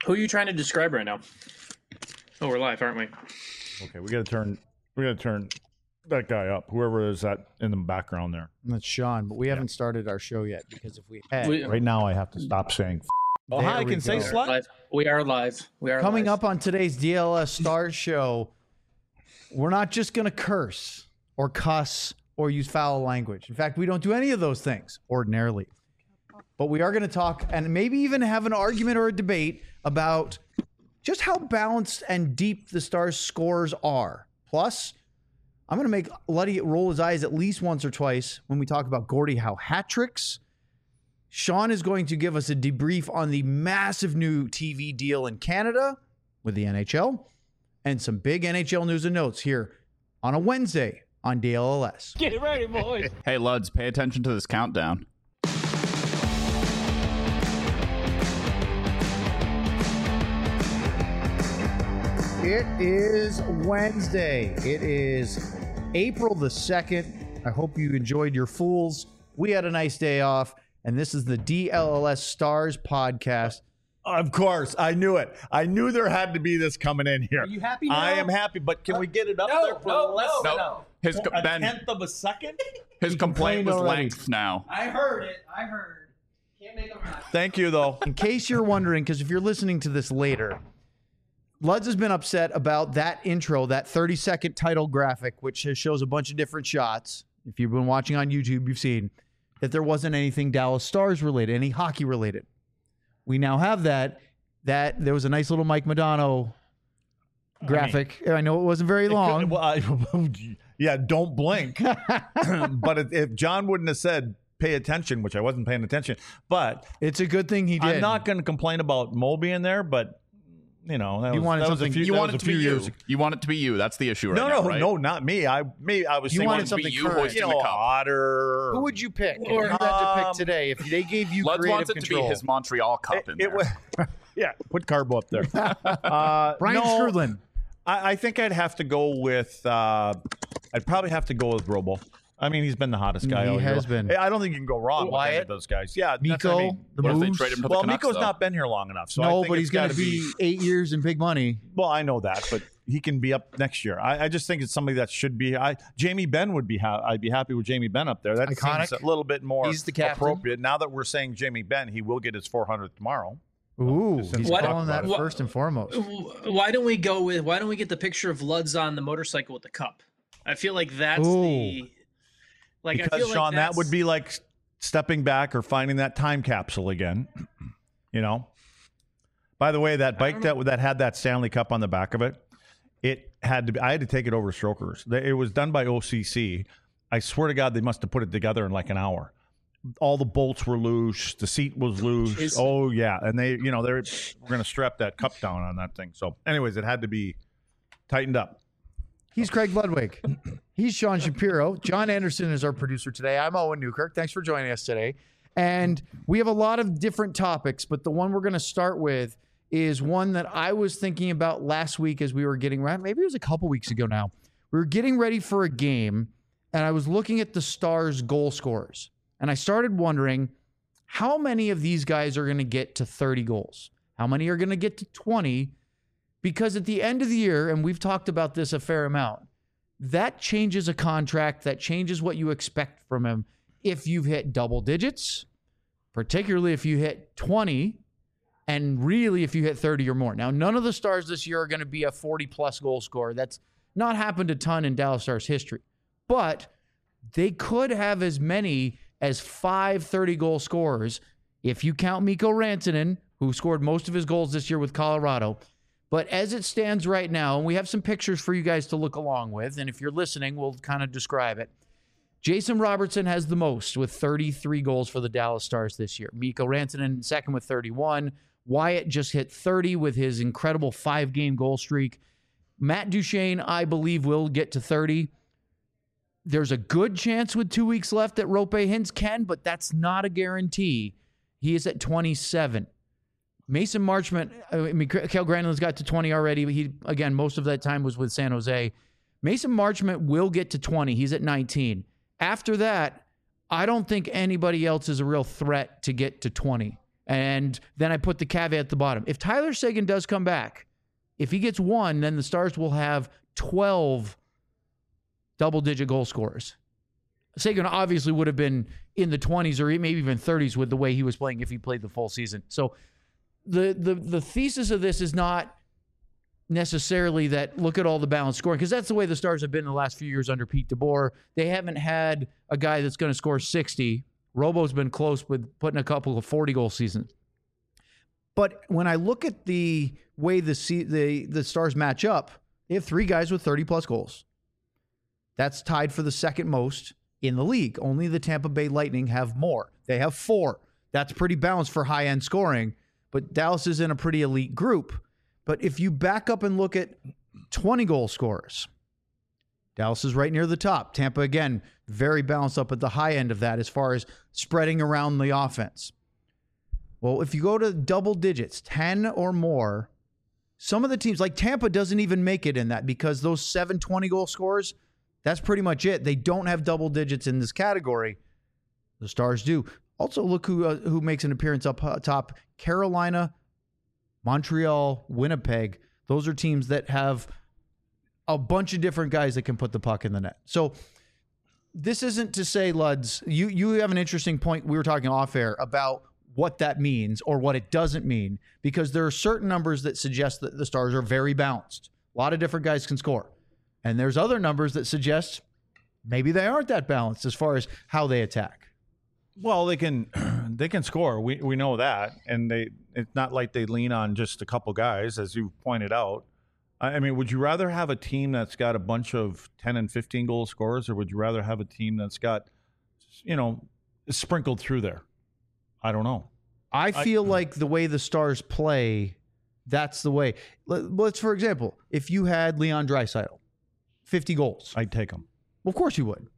Who are you trying to describe right now? Oh, we're live, aren't we? Okay, we gotta turn that guy up. Whoever is that in the background there. That's Sean, but we haven't started our show yet because if we had, Right now, I have to stop saying. Oh, There hi, I we can say go. slut. Live. We are live. We are coming live. up on today's DLS Stars show, we're not just going to curse or cuss or use foul language. In fact, we don't do any of those things ordinarily. But we are going to talk and maybe even have an argument or a debate about just how balanced and deep the Stars scores are. Plus, I'm going to make Luddy roll his eyes at least once or twice when we talk about Gordie Howe hat tricks. Sean is going to give us a debrief on the massive new TV deal in Canada with the NHL and some big NHL news and notes here on a Wednesday on DLLS. Get it ready, boys. Hey, Luds, pay attention to this countdown. It is Wednesday. It is April the 2nd. I hope you enjoyed your Fools. We had a nice day off, and this is the DLLS Stars podcast. Of course, I knew it. I knew there had to be this coming in here. Are you happy now? I am happy, but can we get it up there for less than a Ben, tenth of a second? his complaint complained was already. length now. I heard it. Can't make them happy. Thank you, though. In case you're wondering, because if you're listening to this later, Luds has been upset about that intro, that 30-second title graphic, which shows a bunch of different shots. If you've been watching on YouTube, you've seen that there wasn't anything Dallas Stars related, any hockey related. We now have that. That there was a nice little Mike Modano graphic. I know it wasn't very long. Yeah, don't blink. But if John wouldn't have said pay attention, which I wasn't paying attention, but It's a good thing he did. I'm not going to complain about Mo being there, but you know, that You was, wanted that was a something- few, You that want was it a to be few you. years ago. You want it to be you. That's the issue right No, now, no, right? no, not me. I was You thinking wanted it to be something you current. hoisting you know, the cup. Otter. Who would you pick? If you had to pick today, if they gave you Luds creative wants it control. to be his Montreal Cup in there. was, yeah, put Carbo up there. Brian no, Strudlin. I think I'd have to go with. I'd probably have to go with Robo. I mean, he's been the hottest guy. He all year has long. been. I don't think you can go wrong with any Wyatt? of those guys. Yeah, that's what I Miko, mean. the What if they Moose. trade him to the Well, Canucks, Miko's though? not been here long enough, so I No, think but it's he's going gotta to be 8 years in big money. Well, I know that, but he can be up next year. I just think it's somebody that should be. Jamie Benn would be. I'd be happy with Jamie Benn up there. That Iconic. seems a little bit more He's the captain. appropriate. Now that we're saying Jamie Benn, he will get his 400th tomorrow. Ooh, Since he's we What- calling that what- first and foremost. Why don't we get the picture of Luds on the motorcycle with the cup? I feel like that's Ooh. the. Like, I Because feel like Sean, that that's- would be like stepping back or finding that time capsule again. You know. By the way, that bike that had that Stanley Cup on the back of it, it had to be. I had to take it over to Strokers. It was done by OCC. I swear to God, they must have put it together in like an hour. All the bolts were loose. The seat was loose. Oh yeah, and they were going to strap that cup down on that thing. So, anyways, it had to be tightened up. He's Craig Ludwig. He's Sean Shapiro. John Anderson is our producer today. I'm Owen Newkirk. Thanks for joining us today. And we have a lot of different topics, but the one we're going to start with is one that I was thinking about last week as we were getting ready. Maybe it was a couple weeks ago now. We were getting ready for a game, and I was looking at the Stars' goal scorers. And I started wondering how many of these guys are going to get to 30 goals? How many are going to get to 20? Because at the end of the year, and we've talked about this a fair amount, that changes a contract, that changes what you expect from him. If you've hit double digits, particularly if you hit 20, and really if you hit 30 or more. Now, none of the Stars this year are going to be a 40-plus goal scorer. That's not happened a ton in Dallas Stars history. But they could have as many as 5 30-goal scorers if you count Mikko Rantanen, who scored most of his goals this year with Colorado. But as it stands right now, and we have some pictures for you guys to look along with, and if you're listening, we'll kind of describe it. Jason Robertson has the most with 33 goals for the Dallas Stars this year. Mikko Rantanen second with 31. Wyatt just hit 30 with his incredible 5-game goal streak. Matt Duchene, I believe, will get to 30. There's a good chance with 2 weeks left that Roope Hintz can, but that's not a guarantee. He is at 27. Mason Marchment, Mikael Granlund's got to 20 already. But he, again, most of that time was with San Jose. Mason Marchment will get to 20. He's at 19. After that, I don't think anybody else is a real threat to get to 20. And then I put the caveat at the bottom. If Tyler Seguin does come back, if he gets 1, then the Stars will have 12 double-digit goal scorers. Seguin obviously would have been in the 20s or maybe even 30s with the way he was playing if he played the full season. So the thesis of this is not necessarily that look at all the balanced scoring, because that's the way the Stars have been in the last few years under Pete DeBoer. They haven't had a guy that's going to score 60. Robo's been close with putting a couple of 40-goal seasons. But when I look at the way the Stars match up, they have 3 guys with 30-plus goals. That's tied for the second most in the league. Only the Tampa Bay Lightning have more. They have 4. That's pretty balanced for high-end scoring, but Dallas is in a pretty elite group. But if you back up and look at 20-goal scorers, Dallas is right near the top. Tampa, again, very balanced up at the high end of that as far as spreading around the offense. Well, if you go to double digits, 10 or more, some of the teams, like Tampa, doesn't even make it in that because those 7 20-goal scorers, that's pretty much it. They don't have double digits in this category. The Stars do. Also, look who makes an appearance up top. Carolina, Montreal, Winnipeg. Those are teams that have a bunch of different guys that can put the puck in the net. So this isn't to say, Luds, you have an interesting point. We were talking off air about what that means or what it doesn't mean, because there are certain numbers that suggest that the Stars are very balanced. A lot of different guys can score. And there's other numbers that suggest maybe they aren't that balanced as far as how they attack. Well, they can score. We know that, and it's not like they lean on just a couple guys, as you pointed out. I mean, would you rather have a team that's got a bunch of 10 and 15 goal scorers, or would you rather have a team that's got, sprinkled through there? I don't know. I feel like the way the Stars play, that's the way. Let's, for example, if you had Leon Draisaitl, 50 goals. I'd take them. Well, of course you would.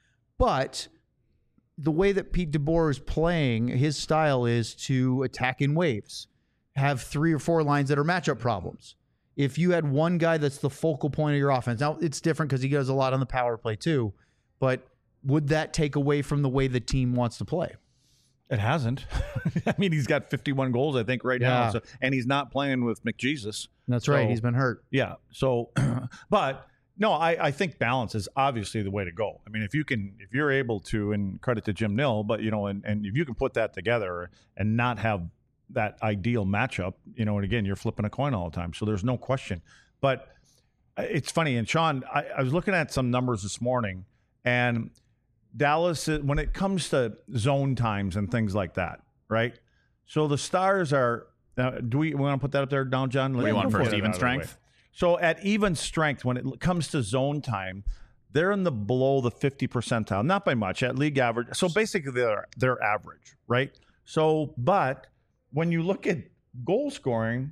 But the way that Pete DeBoer is playing, his style is to attack in waves, have 3 or 4 lines that are matchup problems. If you had one guy that's the focal point of your offense, now it's different because he does a lot on the power play too, but would that take away from the way the team wants to play? It hasn't. I mean, he's got 51 goals, I think, right now. So, and he's not playing with McJesus. That's right. He's been hurt. Yeah. So, but no, I think balance is obviously the way to go. I mean, if you're able to, and credit to Jim Nill, but, and if you can put that together and not have that ideal matchup, and again, you're flipping a coin all the time. So there's no question. But it's funny. And Sean, I was looking at some numbers this morning, and Dallas, when it comes to zone times and things like that, right? So the Stars are, do we want to put that up there down, John? What do you want first, even strength? So at even strength, when it comes to zone time, they're below the 50 percentile, not by much, at league average. So basically they're average, right? So, but when you look at goal scoring,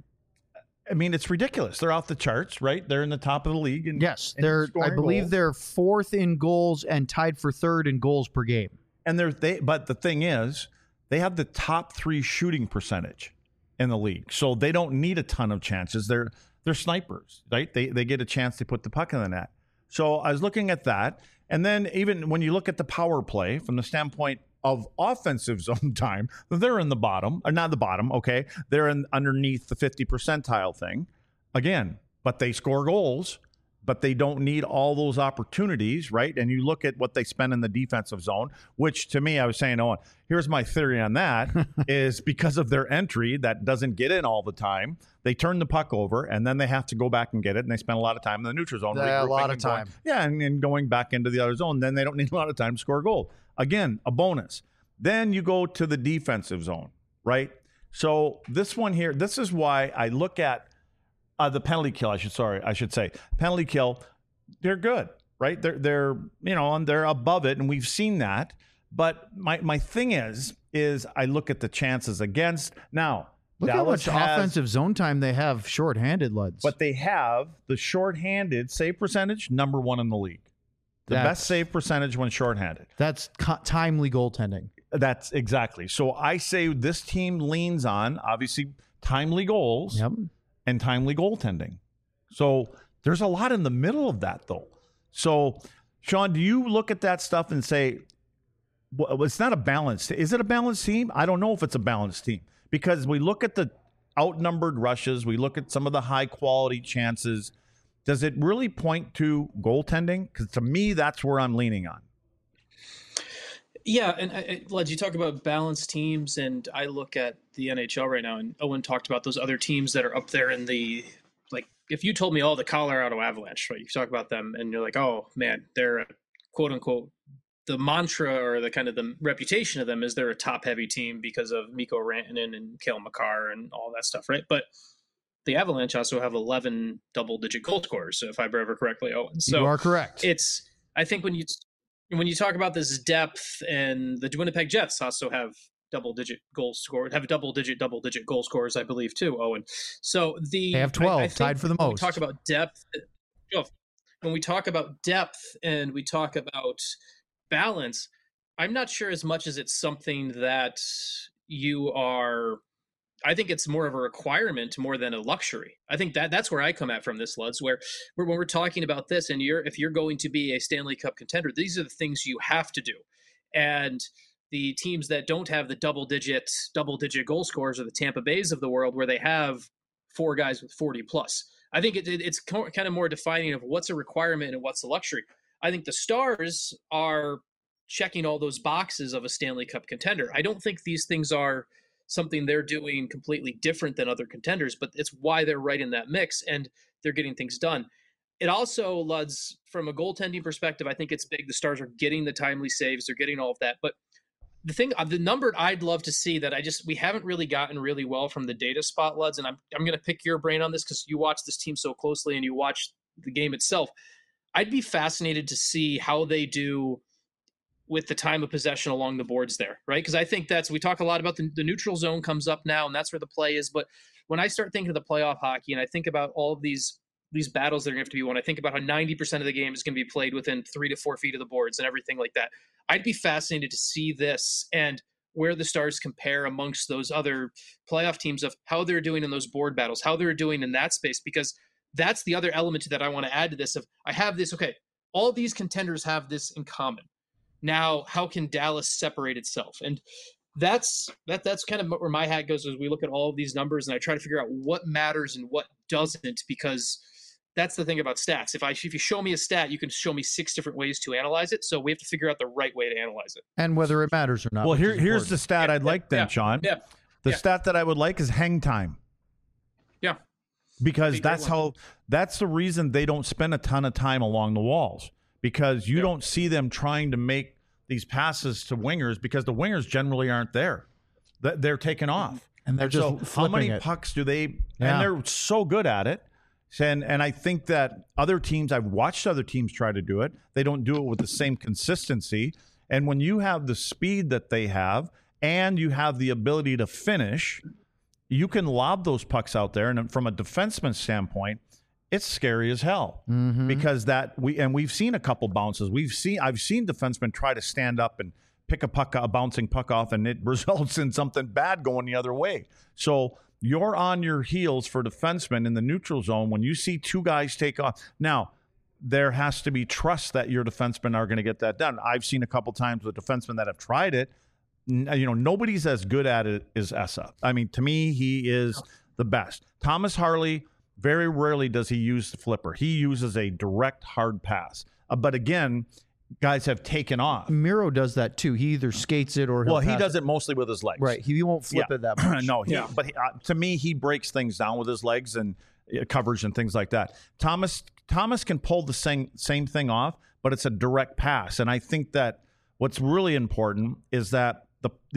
I mean, it's ridiculous. They're off the charts, right? They're in the top of the league. Yes, I believe they're 4th in goals and tied for 3rd in goals per game. And but the thing is, they have the top 3 shooting percentage in the league. So they don't need a ton of chances. They're snipers, right? They get a chance to put the puck in the net. So I was looking at that. And then even when you look at the power play from the standpoint of offensive zone time, they're in the bottom, or not the bottom, okay? They're underneath the 50 percentile thing. Again, but they score goals, but they don't need all those opportunities, right? And you look at what they spend in the defensive zone, which to me, I was saying, here's my theory on that, is because of their entry that doesn't get in all the time, they turn the puck over, and then they have to go back and get it, and they spend a lot of time in the neutral zone. A lot of time. And going back into the other zone, then they don't need a lot of time to score a goal. Again, a bonus. Then you go to the defensive zone, right? So this one here, this is why I look at the penalty kill. I should say penalty kill. They're good, right? They're and they're above it, and we've seen that. But my thing is I look at the chances against. Now, look Dallas how much offensive zone time they have shorthanded, Luds. But they have the shorthanded save percentage #1 in the league. The best save percentage when shorthanded. That's timely goaltending. That's exactly. So I say this team leans on, obviously, timely goals and timely goaltending. So there's a lot in the middle of that, though. So, Sean, do you look at that stuff and say, well, it's not a balanced? Is it a balanced team? I don't know if it's a balanced team. Because we look at the outnumbered rushes, we look at some of the high quality chances. Does it really point to goaltending? Because to me, that's where I'm leaning on. Yeah, and Led, you talk about balanced teams, and I look at the NHL right now, and Owen talked about those other teams that are up there in the, like, if you told me all the Colorado Avalanche, right, you talk about them, and you're like, oh, man, they're a quote-unquote, the mantra or the kind of the reputation of them is they're a top-heavy team because of Mikko Rantanen and Cale Makar and all that stuff, right? But the Avalanche also have 11 double-digit goal scorers, if I remember correctly, Owen. So you are correct. I think when you talk about this depth, and the Winnipeg Jets also have double-digit goal goal scorers, I believe, too, Owen. So they have 12, tied for the most. When we talk about depth, when we talk about depth and we talk about balance, I'm not sure as much as it's something that you are. I think it's more of a requirement more than a luxury. I think that's where I come at from this, Luds, where when we're talking about this, and if you're going to be a Stanley Cup contender, these are the things you have to do. And the teams that don't have the double-digit goal scorers are the Tampa Bays of the world, where they have 4 guys with 40 plus. I think it's kind of more defining of what's a requirement and what's a luxury. I think the Stars are checking all those boxes of a Stanley Cup contender. I don't think these things are something they're doing completely different than other contenders, but it's why they're right in that mix and they're getting things done. It also, Luds, from a goaltending perspective, I think it's big. The Stars are getting the timely saves. They're getting all of that. But the number I'd love to see that we haven't really gotten really well from the data spot, Luds, and I'm going to pick your brain on this because you watch this team so closely and you watch the game itself. I'd be fascinated to see how they do with the time of possession along the boards there, right? Because I think we talk a lot about the neutral zone comes up now, and that's where the play is. But when I start thinking of the playoff hockey, and I think about all of these battles that are going to have to be won, I think about how 90% of the game is going to be played within 3 to 4 feet of the boards and everything like that. I'd be fascinated to see this and where the Stars compare amongst those other playoff teams of how they're doing in those board battles, how they're doing in that space, because that's the other element that I want to add to this. I have this, okay, all these contenders have this in common. Now, how can Dallas separate itself? And that's kind of where my hat goes as we look at all of these numbers, and I try to figure out what matters and what doesn't, because that's the thing about stats. If you show me a stat, you can show me 6 different ways to analyze it. So we have to figure out the right way to analyze it. And whether it matters or not. Well, here's the stat I'd like then, Sean. Yeah. The stat that I would like is hang time. Yeah. Because that's the reason they don't spend a ton of time along the walls, because you don't see them trying to make these passes to wingers, because the wingers generally aren't there. They're taken off. And they're just how many it. pucks do they and they're so good at it. And I think that I've watched other teams try to do it. They don't do it with the same consistency. And when you have the speed that they have and you have the ability to finish, you can lob those pucks out there. And from a defenseman standpoint, it's scary as hell, because we've seen a couple bounces. I've seen defensemen try to stand up and pick a bouncing puck off, and it results in something bad going the other way. So you're on your heels for defensemen in the neutral zone when you see 2 guys take off. Now, there has to be trust that your defensemen are going to get that done. I've seen a couple times with defensemen that have tried it. Nobody's as good at it as Esa. I mean, to me, he is the best. Thomas Harley, very rarely does he use the flipper. He uses a direct hard pass. But again, guys have taken off. Miro does that too. He either skates it or he does it mostly with his legs. Right. He won't flip it that much. No. But to me, he breaks things down with his legs and coverage and things like that. Thomas can pull the same thing off, but it's a direct pass. And I think that what's really important is that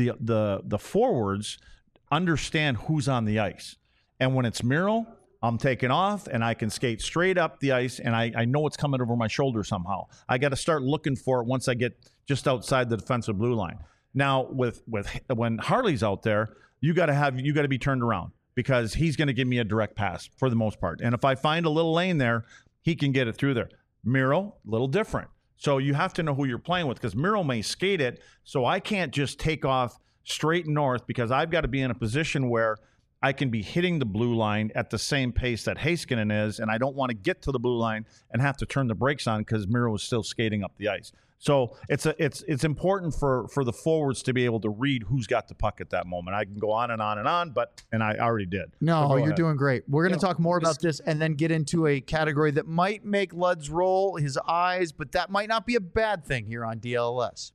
the forwards understand who's on the ice. And when it's Miro, I'm taking off and I can skate straight up the ice, and I know it's coming over my shoulder somehow. I got to start looking for it once I get just outside the defensive blue line. Now, when Harley's out there, you got to be turned around, because he's going to give me a direct pass for the most part. And if I find a little lane there, he can get it through there. Miro, a little different. So you have to know who you're playing with, because Miro may skate it, so I can't just take off straight north, because I've got to be in a position where I can be hitting the blue line at the same pace that Heiskanen is, and I don't want to get to the blue line and have to turn the brakes on because Miro is still skating up the ice. So it's important for the forwards to be able to read who's got the puck at that moment. I can go on and on and on, and I already did. No, you're ahead. doing great. We're going to talk more about this and then get into a category that might make Luds roll his eyes, but that might not be a bad thing here on DLS.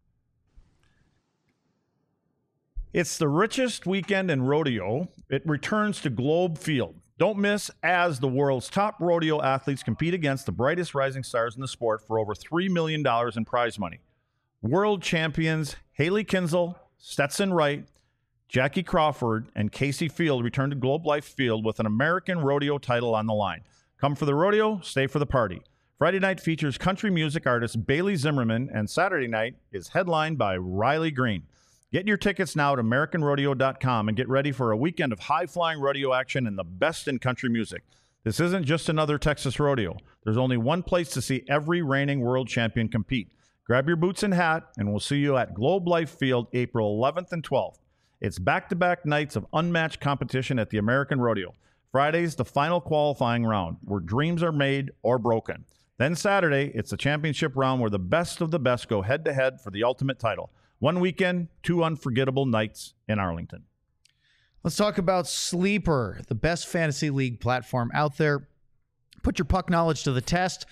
It's the richest weekend in rodeo. It returns to Globe Field. Don't miss as the world's top rodeo athletes compete against the brightest rising stars in the sport for over $3 million in prize money. World champions Haley Kinsel, Stetson Wright, Jackie Crawford, and Casey Field return to Globe Life Field with an American rodeo title on the line. Come for the rodeo, stay for the party. Friday night features country music artist Bailey Zimmerman, and Saturday night is headlined by Riley Green. Get your tickets now at AmericanRodeo.com and get ready for a weekend of high-flying rodeo action and the best in country music. This isn't just another Texas rodeo. There's only one place to see every reigning world champion compete. Grab your boots and hat, and we'll see you at Globe Life Field April 11th and 12th. It's back-to-back nights of unmatched competition at the American Rodeo. Friday's the final qualifying round, where dreams are made or broken. Then Saturday, it's the championship round where the best of the best go head-to-head for the ultimate title. One weekend, 2 unforgettable nights in Arlington. Let's talk about Sleeper, the best fantasy league platform out there. Put your puck knowledge to the test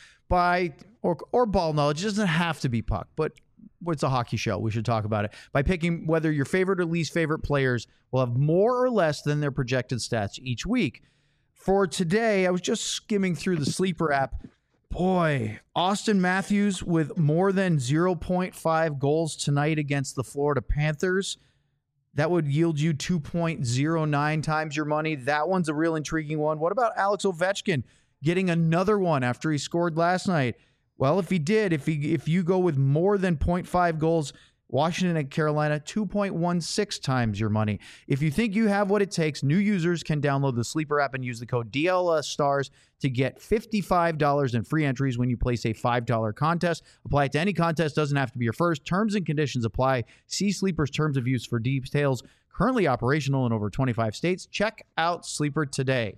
or ball knowledge. It doesn't have to be puck, but it's a hockey show. We should talk about it. By picking whether your favorite or least favorite players will have more or less than their projected stats each week. For today, I was just skimming through the Sleeper app. Boy, Austin Matthews with more than 0.5 goals tonight against the Florida Panthers. That would yield you 2.09 times your money. That one's a real intriguing one. What about Alex Ovechkin getting another one after he scored last night? Well, if he did, if you go with more than 0.5 goals, Washington and Carolina, 2.16 times your money. If you think you have what it takes, new users can download the Sleeper app and use the code DLSSTARS to get $55 in free entries when you place a $5 contest. Apply it to any contest. Doesn't have to be your first. Terms and conditions apply. See Sleeper's terms of use for details. Currently operational in over 25 states. Check out Sleeper today.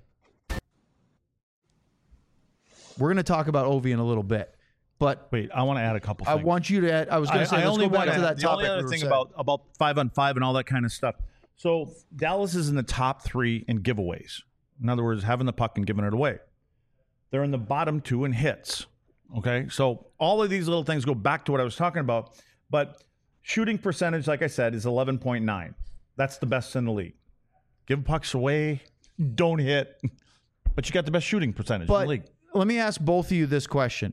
We're going to talk about Ovi in a little bit. But wait, I want to add a couple things. I want you to add, I was going to say, let's go back to that topic. The only other thing about 5-on-5 and all that kind of stuff. So Dallas is in the top 3 in giveaways. In other words, having the puck and giving it away. They're in the bottom 2 in hits. Okay, so all of these little things go back to what I was talking about. But shooting percentage, like I said, is 11.9. That's the best in the league. Give pucks away, don't hit, but you got the best shooting percentage in the league. Let me ask both of you this question.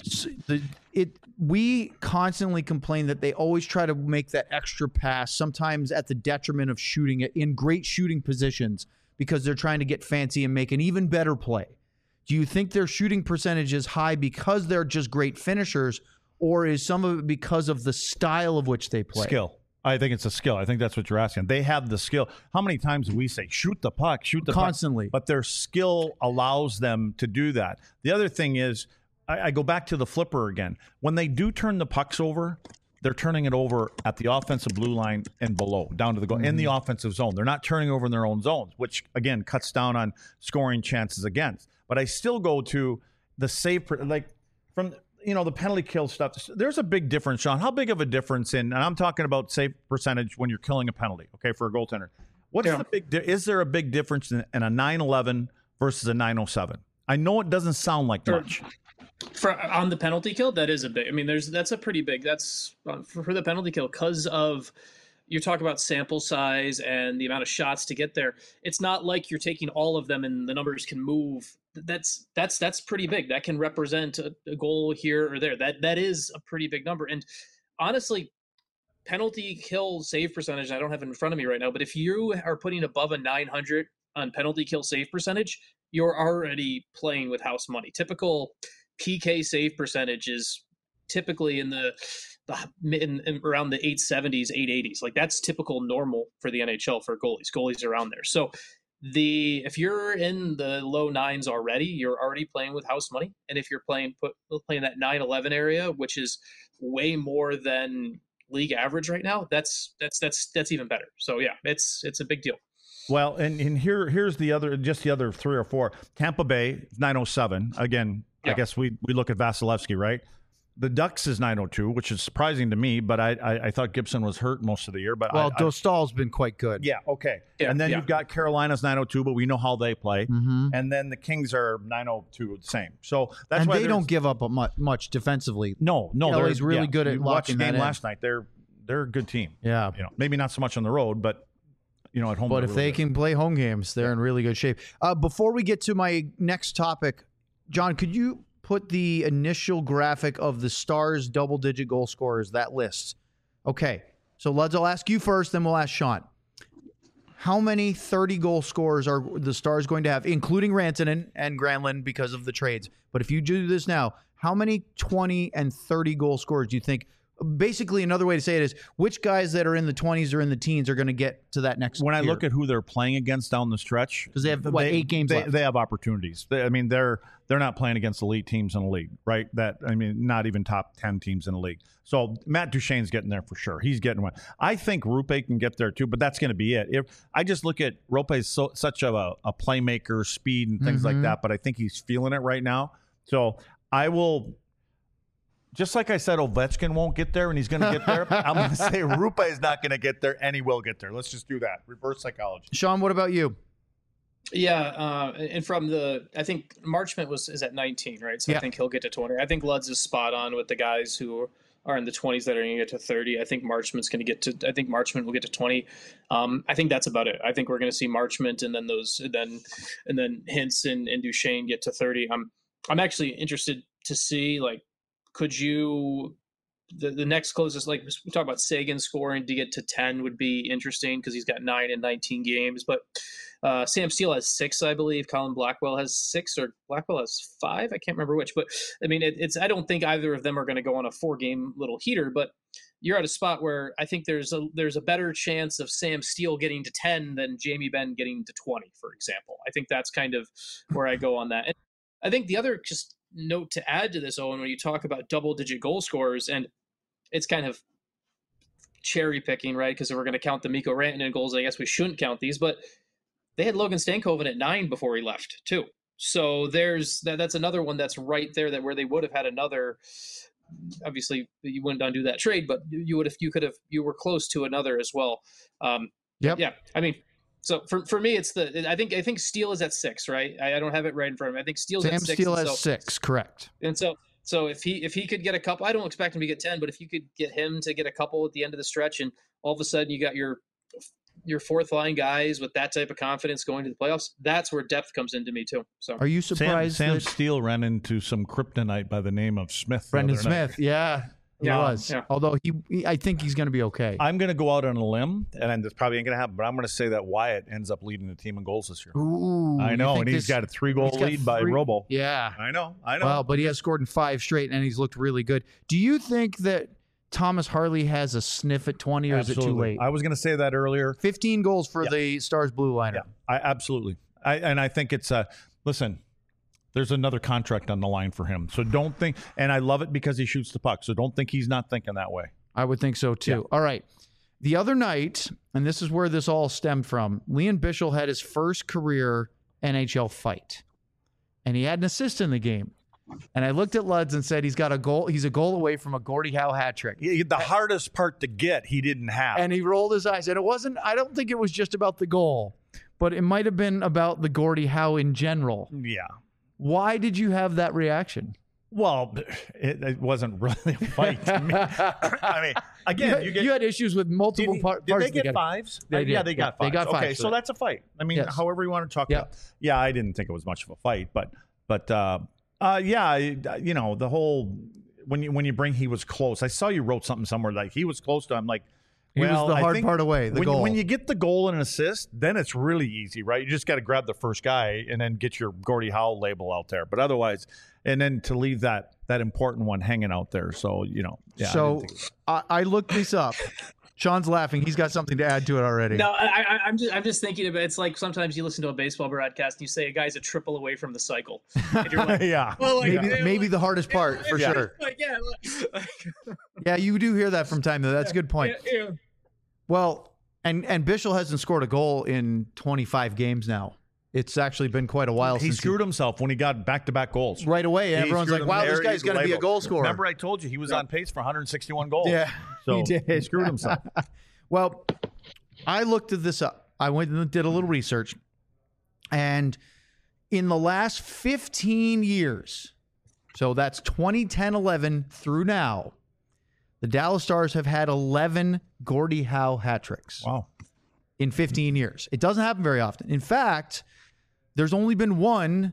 We constantly complain that they always try to make that extra pass, sometimes at the detriment of shooting it in great shooting positions because they're trying to get fancy and make an even better play. Do you think their shooting percentage is high because they're just great finishers, or is some of it because of the style of which they play? Skill. I think it's a skill. I think that's what you're asking. They have the skill. How many times do we say, shoot the puck, constantly? But their skill allows them to do that. The other thing is, I go back to the flipper again. When they do turn the pucks over, they're turning it over at the offensive blue line and below, down to the goal, in the offensive zone. They're not turning over in their own zones, which, again, cuts down on scoring chances against. But I still go to the save, like from the penalty kill stuff. There's a big difference, Sean. How big of a difference and I'm talking about save percentage when you're killing a penalty, okay, for a goaltender. What's the big is there a big difference in a 911 versus a 907? I know it doesn't sound like much. On the penalty kill, that is a big. I mean, that's a pretty big. That's for the penalty kill because of you're talking about sample size and the amount of shots to get there. It's not like you're taking all of them and the numbers can move. That's pretty big. That can represent a goal here or there. That is a pretty big number. And honestly, penalty kill save percentage, I don't have it in front of me right now, but if you are putting above a 900 on penalty kill save percentage, you're already playing with house money. Typical PK save percentage is typically in around the 870s, 880s. Like that's typical normal for the NHL for goalies. Goalies are around there. So if you're in the low 9s already, you're already playing with house money. And if you're playing that 9-11 area, which is way more than league average right now, that's even better. So yeah, it's a big deal. Well, and here's the other 3 or 4. Tampa Bay 907. Again, I guess we look at Vasilevsky, right? The Ducks is 902, which is surprising to me, but I thought Gibson was hurt most of the year. But Dostal's been quite good. Yeah, okay. Yeah, and then you've got Carolina's 902, but we know how they play. Mm-hmm. And then the Kings are 902, the same. So that's and why they don't give up much defensively. No, they're really good at locking that in. Last night. They're a good team. Yeah, maybe not so much on the road, but at home. But if they can play home games, they're in really good shape. Before we get to my next topic, John, could you put the initial graphic of the Stars double-digit goal scorers, that list? Okay, so I'll ask you first, then we'll ask Sean. How many 30-goal scorers are the Stars going to have, including Rantanen and Granlund because of the trades? But if you do this now, how many 20 and 30-goal scorers do you think? Basically, another way to say it is, which guys that are in the 20s or in the teens are going to get to that next When tier? I look at who they're playing against down the stretch, because they have 8 games left. They have opportunities. They're not playing against elite teams in the league, right? Not even top 10 teams in the league. So Matt Duchene's getting there for sure. He's getting one. I think Rupe can get there too, but that's going to be it. I just look at Rupe as such a playmaker, speed and things like that, but I think he's feeling it right now. So I will. Just like I said, Ovechkin won't get there, and he's going to get there. I'm going to say Rupe is not going to get there, and he will get there. Let's just do that. Reverse psychology. Sean, what about you? Yeah, and from I think Marchment is at 19, right? So I think he'll get to 20. I think Luds is spot on with the guys who are in the 20s that are going to get to 30. I think Marchment will get to 20. I think that's about it. I think we're going to see Marchment and then then Hintz and Duchene get to 30. I'm actually interested to see, like, could you the next closest, like we talk about Sagan scoring to get to 10 would be interesting because he's got 9 in 19 games, but Sam Steele has 6, I believe. Colin Blackwell has 6, or Blackwell has 5. I can't remember which, but I mean, I don't think either of them are going to go on a 4-game little heater, but you're at a spot where I think there's a better chance of Sam Steele getting to 10 than Jamie Benn getting to 20, for example. I think that's kind of where I go on that. And I think the other just note to add to this, Owen, when you talk about double-digit goal scorers, and it's kind of cherry picking, right? Because if we're going to count the Mikko Rantanen goals, I guess we shouldn't count these, but they had Logan Stankoven at 9 before he left too. So that's another one that's right there, that where they would have had another. Obviously, you wouldn't undo that trade, but you were close to another as well. Yeah. I mean, so for me, it's I think Steele is at 6, right? I don't have it right in front of me. I think Steele's at 6. Sam Steele has 6, correct. And so if he could get a couple, I don't expect him to get 10, but if you could get him to get a couple at the end of the stretch, and all of a sudden you got your fourth line guys with that type of confidence going to the playoffs, that's where depth comes into me too. So are you surprised Sam Steele ran into some kryptonite by the name of Smith? Brendan Smith, yeah. He was. Yeah. Although I think he's going to be okay. I'm going to go out on a limb, and this probably ain't going to happen, but I'm going to say that Wyatt ends up leading the team in goals this year. Ooh, I know, and he's got a 3-goal lead by Robo. Yeah. I know. Well, but he has scored in 5 straight, and he's looked really good. Do you think that Thomas Harley has a sniff at 20, or Absolutely. Is it too late? I was going to say that earlier. 15 goals for the Stars blue liner. Yeah, absolutely. I think it's listen, there's another contract on the line for him. So don't think, and I love it because he shoots the puck. So don't think he's not thinking that way. I would think so too. Yeah. All right. The other night, and this is where this all stemmed from, Leon Bichsel had his first career NHL fight. And he had an assist in the game. And I looked at Luds and said he's got a goal. He's a goal away from a Gordie Howe hat trick. The hardest part to get, he didn't have. And he rolled his eyes. And I don't think it was just about the goal, but it might have been about the Gordie Howe in general. Yeah. Why did you have that reaction? Well, it wasn't really a fight. I mean, again, you had issues with multiple parts. Did they get 5s? They did. Yeah, they got 5s. They got 5s. Okay, so that's a fight. I mean, however you want to talk about it. Yeah, I didn't think it was much of a fight, but the whole when you bring he was close. I saw you wrote something somewhere like he was close to him. Like, he was the hard part away. The goal. When you get the goal and an assist, then it's really easy, right? You just got to grab the first guy and then get your Gordie Howe label out there. But otherwise, and then to leave that important one hanging out there. So Yeah, so I looked this up. Sean's laughing. He's got something to add to it already. No, I'm just thinking about it. It's like sometimes you listen to a baseball broadcast and you say a guy's a triple away from the cycle. And you're like, yeah. Well, maybe the hardest part for sure. Yeah, you do hear that from time to time. That's a good point. Yeah. Well, And Bichel hasn't scored a goal in 25 games now. It's actually been quite a while He since screwed himself when he got back-to-back goals. right away. And He everyone's screwed like, wow, this him there. guy's going to be a goal scorer. Remember I told you he was on pace for 161 goals. Yeah, So he did. he screwed himself. Well, I looked at this up. I went and did a little research. And in the last 15 years, so that's 2010-11 through now, the Dallas Stars have had 11 Gordie Howe hat tricks Wow. in 15 years. It doesn't happen very often. In fact, there's only been one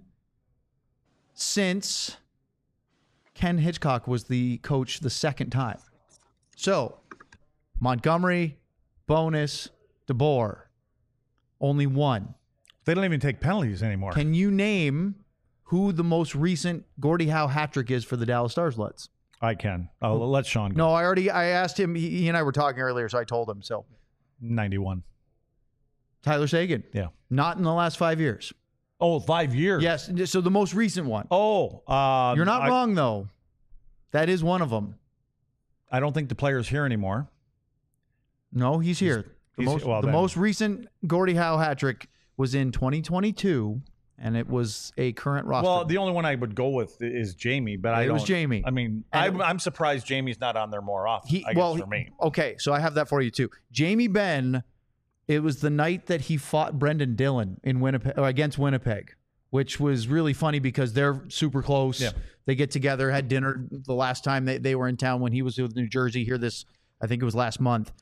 since Ken Hitchcock was the coach the second time. So, Montgomery, Bonus, DeBoer, only one. They don't even take penalties anymore. Can you name who the most recent Gordie Howe hat trick is for the Dallas Stars, Lutz? I can. I'll let Sean go. No, I asked him. He and I were talking earlier, so I told him. So, 91. Tyler Seguin. Yeah. Not in the last 5 years. Oh, 5 years. Yes. So the most recent one. Oh. You're not wrong, though. That is one of them. I don't think the player's here anymore. No, he's here. The most recent Gordie Howe hat trick was in 2022, and it was a current roster. Well, the only one I would go with is Jamie, but It was Jamie. I mean, I'm surprised Jamie's not on there more often. I guess for me. Okay, so I have that for you too. Jamie Benn. It was the night that he fought Brendan Dillon in Winnipeg against Winnipeg, which was really funny because they're super close. Yeah. They get together, had dinner the last time they were in town when he was with New Jersey. Here, I think it was last month.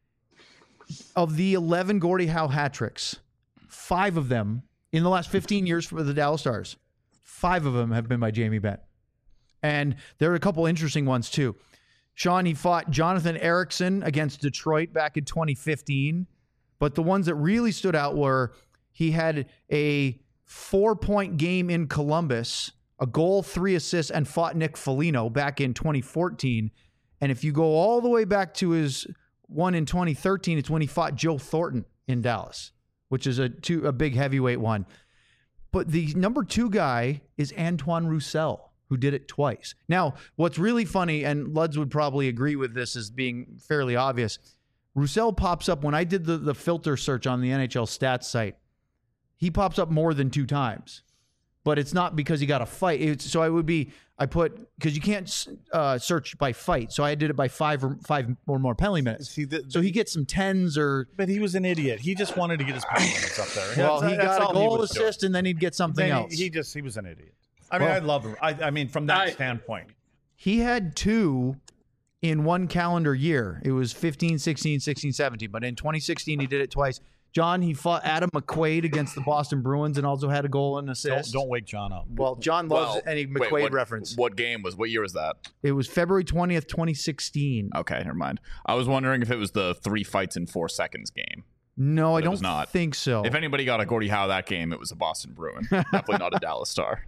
Of the 11 Gordie Howe hat tricks, 5 of them in the last 15 years for the Dallas Stars, 5 of them have been by Jamie Benn. And there are a couple interesting ones too. Sean, he fought Jonathan Erickson against Detroit back in 2015. But the ones that really stood out were he had a 4-point game in Columbus, a goal, 3 assists, and fought Nick Foligno back in 2014. And if you go all the way back to his one in 2013, it's when he fought Joe Thornton in Dallas, which is a big heavyweight one. But the number 2 guy is Antoine Roussel, who did it twice. Now, what's really funny, and Luds would probably agree with this as being fairly obvious, Roussel pops up when I did the filter search on the NHL stats site. He pops up more than 2 times, but it's not because he got a fight. I put because you can't search by fight, so I did it by 5 or more penalty minutes. So he gets some 10s or. But he was an idiot. He just wanted to get his penalty minutes up there. Well, he got a goal assist, and then he'd get something else. He was an idiot. I mean, I love him. I mean, from that standpoint, he had 2. In one calendar year. It was 15, 16, 16, 17. But in 2016, he did it twice. John, he fought Adam McQuaid against the Boston Bruins and also had a goal and assist. Don't wake John up. Well, John loves any McQuaid reference. What year was that? It was February 20th, 2016. Okay, never mind. I was wondering if it was the 3 fights in 4 seconds game. No, I don't think so. If anybody got a Gordie Howe that game, it was a Boston Bruin. Definitely not a Dallas Star.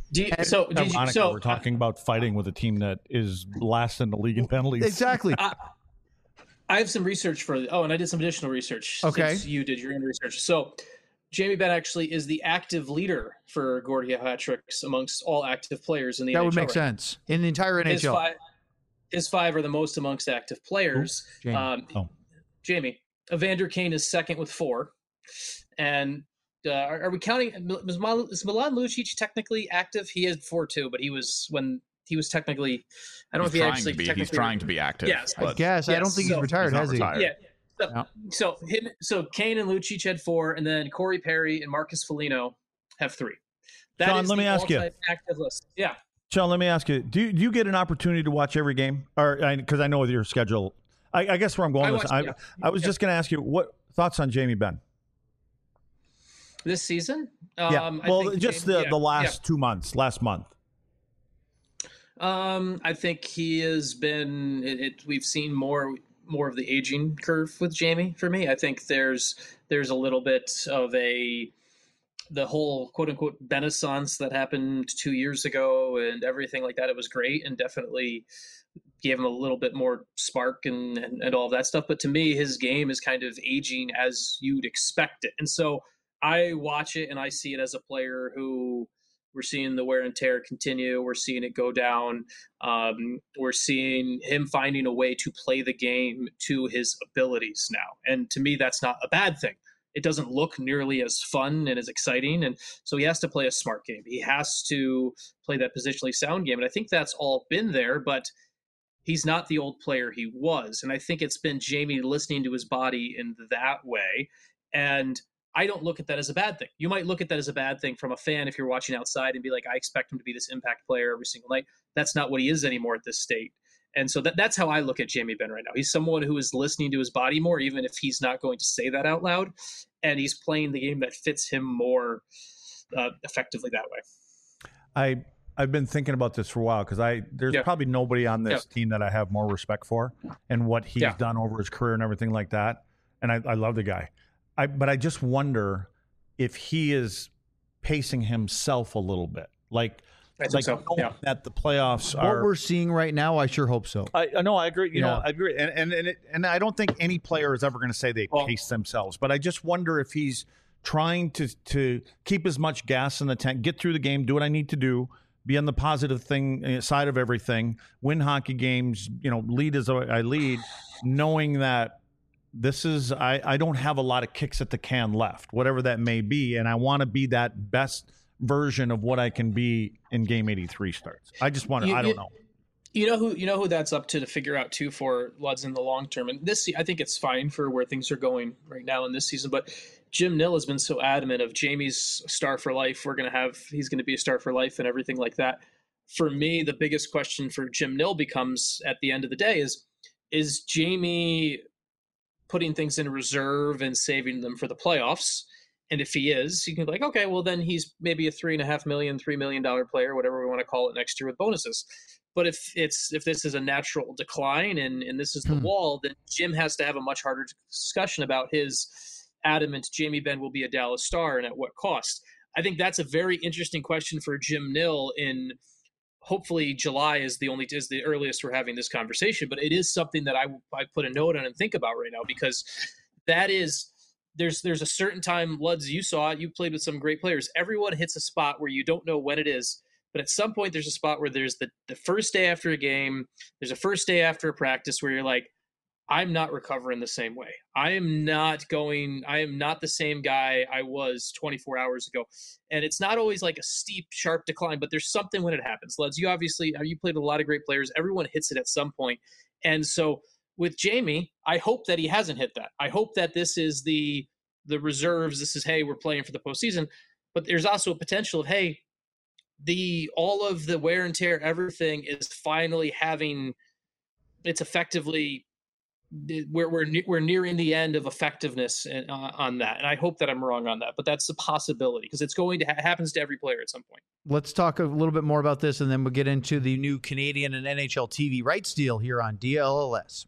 We're talking about fighting with a team that is last in the league in penalties. Exactly. I have some research and I did some additional research. Okay. Since you did your own research. So Jamie Benn actually is the active leader for Gordie Howe hat tricks amongst all active players in the NHL. That would make sense. In the entire NHL. His 5 are the most amongst active players. Jamie. Evander Kane is second with 4. And are we counting? Is Milan Lucic technically active? He is 4 too, but he was technically. I don't know if he actually. He's trying to be active. Yes, I guess. I don't think he's retired, has he? Yeah. So Kane and Lucic had 4, and then Corey Perry and Marcus Foligno have 3. Sean, let me ask you. Active list. Yeah. Sean, let me ask you. Do you get an opportunity to watch every game, or because I know with your schedule, I guess where I'm going with this. I was just going to ask you what thoughts on Jamie Benn. This season? The last 2 months, last month. I think he has been. We've seen more of the aging curve with Jamie. For me, I think there's a little bit of the whole quote unquote Renaissance that happened 2 years ago and everything like that. It was great and definitely gave him a little bit more spark and all of that stuff. But to me, his game is kind of aging as you'd expect it, and so I watch it and I see it as a player who We're seeing the wear and tear continue. We're seeing it go down. We're seeing him finding a way to play the game to his abilities now. And to me, that's not a bad thing. It doesn't look nearly as fun and as exciting. And so he has to play a smart game. He has to play that positionally sound game. And I think that's all been there, but he's not the old player he was. And I think it's been Jamie listening to his body in that way. And I don't look at that as a bad thing. You might look at that as a bad thing from a fan if you're watching outside and be like, I expect him to be this impact player every single night. That's not what he is anymore at this state. And so that's how I look at Jamie Benn right now. He's someone who is listening to his body more, even if he's not going to say that out loud. And he's playing the game that fits him more effectively that way. I've been thinking about this for a while because there's probably nobody on this team that I have more respect for and what he's done over his career and everything like that. And I love the guy. But I just wonder if he is pacing himself a little bit. That the playoffs are what we're seeing right now. I sure hope so. I know. I agree. I agree. And I don't think any player is ever going to say they pace themselves. But I just wonder if he's trying to keep as much gas in the tank, get through the game, do what I need to do, be on the positive side of everything, win hockey games, lead as I lead, knowing that this is I don't have a lot of kicks at the can left, whatever that may be, and I want to be that best version of what I can be in Game 83 starts. I just want to. I don't know. You know who that's up to figure out too for Luds in the long term. And this, I think it's fine for where things are going right now in this season. But Jim Nill has been so adamant of Jamie's star for life. He's going to be a star for life and everything like that. For me, the biggest question for Jim Nill becomes at the end of the day is Jamie putting things in reserve and saving them for the playoffs? And if he is, you can be like, okay, well then he's maybe a $3.5 million, $3 million player, whatever we want to call it next year with bonuses. But if this is a natural decline and this is the wall, then Jim has to have a much harder discussion about his adamant Jamie Benn will be a Dallas Star and at what cost. I think that's a very interesting question for Jim Nill in hopefully July is the earliest we're having this conversation, but it is something that I put a note on and think about right now, because that is there's a certain time, Luds, you saw it, you played with some great players. Everyone hits a spot where you don't know when it is, but at some point there's a spot where there's the first day after a game, there's a first day after a practice where you're like, I'm not recovering the same way. I am not the same guy I was 24 hours ago. And it's not always like a steep, sharp decline, but there's something when it happens. Luds, you played with a lot of great players. Everyone hits it at some point. And so with Jamie, I hope that he hasn't hit that. I hope that this is the reserves. This is, hey, we're playing for the postseason. But there's also a potential of, hey, all of the wear and tear, everything is finally it's effectively, we're nearing the end of effectiveness on that. And I hope that I'm wrong on that, but that's a possibility because it's going to happens to every player at some point. Let's talk a little bit more about this, and then we'll get into the new Canadian and NHL TV rights deal here on DLLS.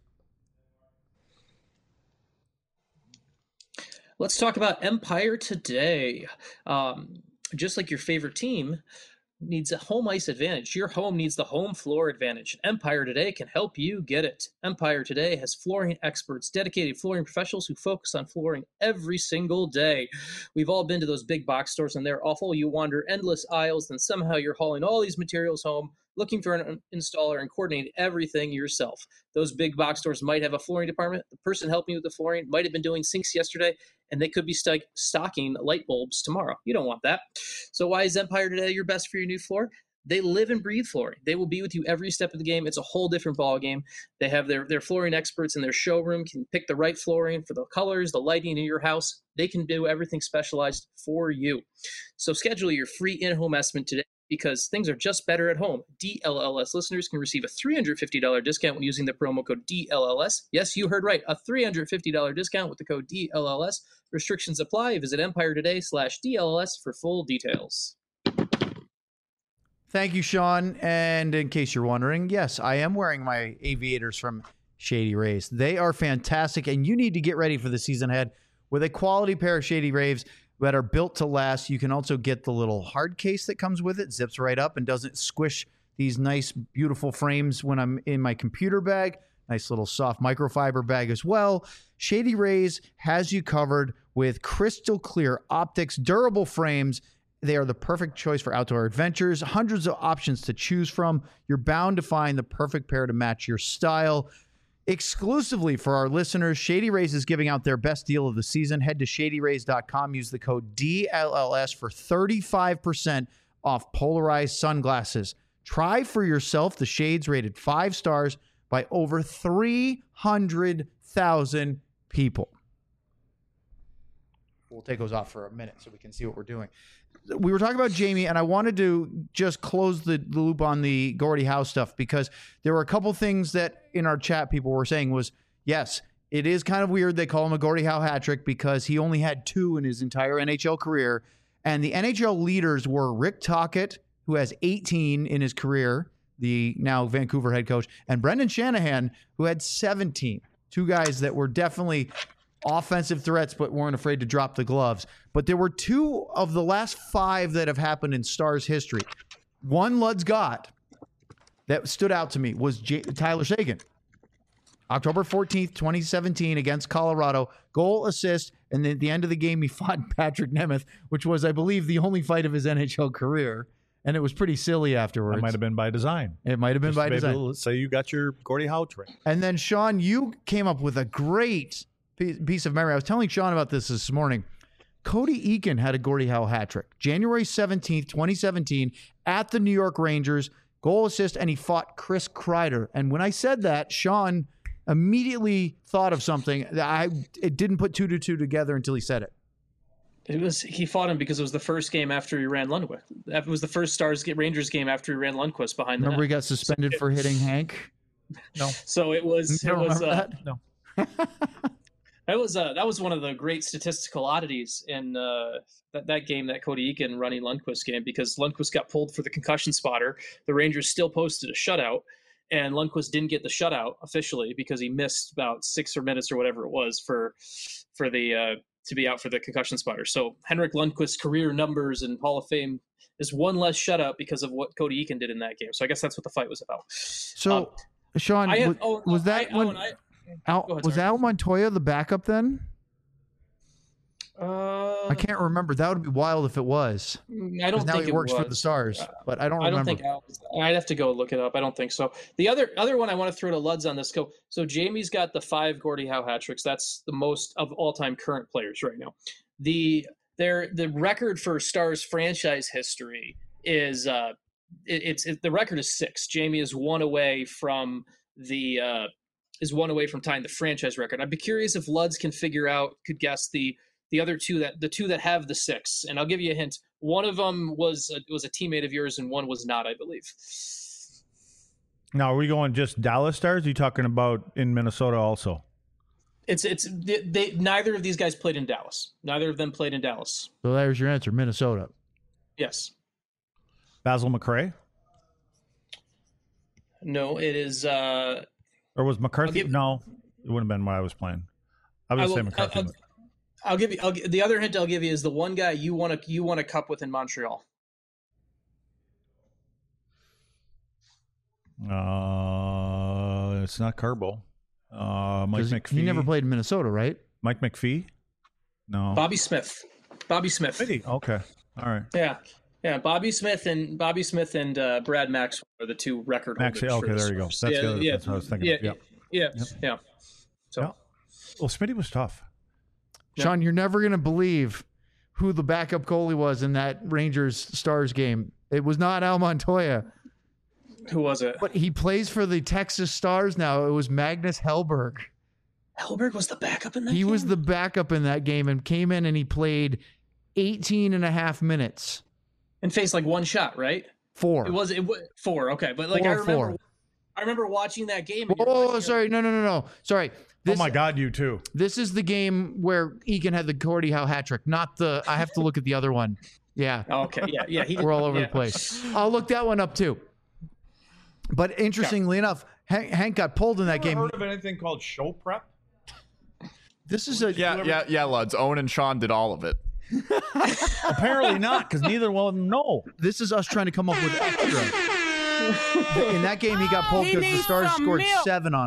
Let's talk about Empire Today. Just like your favorite team needs a home ice advantage, your home needs the home floor advantage. Empire Today can help you get it. Empire Today has flooring experts, dedicated flooring professionals who focus on flooring every single day. We've all been to those big box stores and they're awful. You wander endless aisles, then somehow you're hauling all these materials home, looking for an installer and coordinating everything yourself. Those big box stores might have a flooring department. The person helping you with the flooring might have been doing sinks yesterday, and they could be stocking light bulbs tomorrow. You don't want that. So why is Empire Today your best for your new floor? They live and breathe flooring. They will be with you every step of the game. It's a whole different ball game. They have their flooring experts in their showroom, can pick the right flooring for the colors, the lighting in your house. They can do everything specialized for you. So schedule your free in-home estimate today, because things are just better at home. DLLS listeners can receive a $350 discount when using the promo code DLLS. Yes, you heard right, a $350 discount with the code DLLS. Restrictions apply. Visit EmpireToday/DLLS for full details. Thank you, Sean. And in case you're wondering, yes, I am wearing my aviators from Shady Rays. They are fantastic, and you need to get ready for the season ahead with a quality pair of Shady Rays that are built to last. You can also get the little hard case that comes with it, zips right up and doesn't squish these nice, beautiful frames when I'm in my computer bag. Nice little soft microfiber bag as well. Shady Rays has you covered with crystal clear optics, durable frames, They are the perfect choice for outdoor adventures. Hundreds of options to choose from. You're bound to find the perfect pair to match your style. Exclusively for our listeners, Shady Rays is giving out their best deal of the season. Head to shadyrays.com. Use the code DLLS for 35% off polarized sunglasses. Try for yourself the shades rated 5 stars by over 300,000 people. We'll take those off for a minute so we can see what we're doing. We were talking about Jamie, and I wanted to just close the loop on the Gordie Howe stuff because there were a couple things that in our chat people were saying was, yes, it is kind of weird they call him a Gordie Howe hat trick because he only had 2 in his entire NHL career. And the NHL leaders were Rick Tocchet, who has 18 in his career, the now Vancouver head coach, and Brendan Shanahan, who had 17. 2 guys that were definitely offensive threats but weren't afraid to drop the gloves. But there were 2 of the last 5 that have happened in Stars history. One Lud's got that stood out to me was Tyler Seguin. October 14th, 2017 against Colorado, goal, assist, and then at the end of the game he fought Patrick Nemeth, which was, I believe, the only fight of his NHL career. And it was pretty silly afterwards. That might have been by design. It might have been by design. Let's say you got your Gordie Howe trick. And then, Sean, you came up with a great piece of memory. I was telling Sean about this morning. Cody Eakin had a Gordie Howe hat trick. January 17th, 2017, at the New York Rangers, goal, assist, and he fought Chris Kreider. And when I said that, Sean immediately thought of something that it didn't put 2 to 2 together until he said it. He fought him because it was the first game after he ran Lundqvist. It was the first Rangers game after he ran Lundqvist behind the Remember net. He got suspended for hitting Hank? No. So it was. You don't remember that? No. That was one of the great statistical oddities in that game, that Cody Eakin running Lundqvist game, because Lundqvist got pulled for the concussion spotter. The Rangers still posted a shutout, and Lundqvist didn't get the shutout officially because he missed about 6 minutes or whatever it was for the to be out for the concussion spotter. So Henrik Lundqvist's career numbers and Hall of Fame is one less shutout because of what Cody Eakin did in that game. So I guess that's what the fight was about. So, Sean, was that Al Montoya the backup then? I can't remember. That would be wild if it was. I don't think now he works for the Stars, but I don't remember. I don't think I'd have to go look it up. I don't think so. The other one I want to throw to Luds on this go. So Jamie's got the 5 Gordie Howe hat tricks. That's the most of all-time current players right now. The record for Stars franchise history is the record is 6. Jamie is one away from tying the franchise record. I'd be curious if Luds could guess the other 2 the 2 that have the 6. And I'll give you a hint. One of them was a teammate of yours, and one was not, I believe. Now, are we going just Dallas Stars? Are you talking about in Minnesota also? Neither of these guys played in Dallas. Neither of them played in Dallas. So there's your answer, Minnesota. Yes. Basil McRae? No, it is. Or was McCarthy? No, it wouldn't have been what I was playing. I would say McCarthy. I'll give you the other hint I'll give you is the one guy you won a cup with in Montreal. It's not Carbo. Mike McPhee. He never played in Minnesota, right? Mike McPhee? No. Bobby Smith. Okay. All right. Yeah. Bobby Smith and Brad Maxwell are the 2 record holders. Okay, there you go. That's good. Yeah, that's what I was thinking. Yeah. So. Yeah. Well, Smitty was tough. Sean, you're never going to believe who the backup goalie was in that Rangers Stars game. It was not Al Montoya. Who was it? But he plays for the Texas Stars now. It was Magnus Hellberg. Hellberg was the backup in that game? He was the backup in that game and came in and he played 18 and a half minutes. And faced like 1 shot, right? 4. It was 4, okay. But like 4. I remember watching that game. Oh, sorry. No. Sorry. Oh my God, you too. This is the game where Eakin had the Gordie Howe hat trick, not the. I have to look at the other one. Yeah. Okay. Yeah. We're all over the place. I'll look that one up too. But interestingly enough, Hank got pulled in that game. Heard of anything called show prep? This is a yeah, Luds. Owen and Sean did all of it. Apparently not, because neither one of them know. This is us trying to come up with extra. In that game, he got pulled because the Stars scored 7 on him.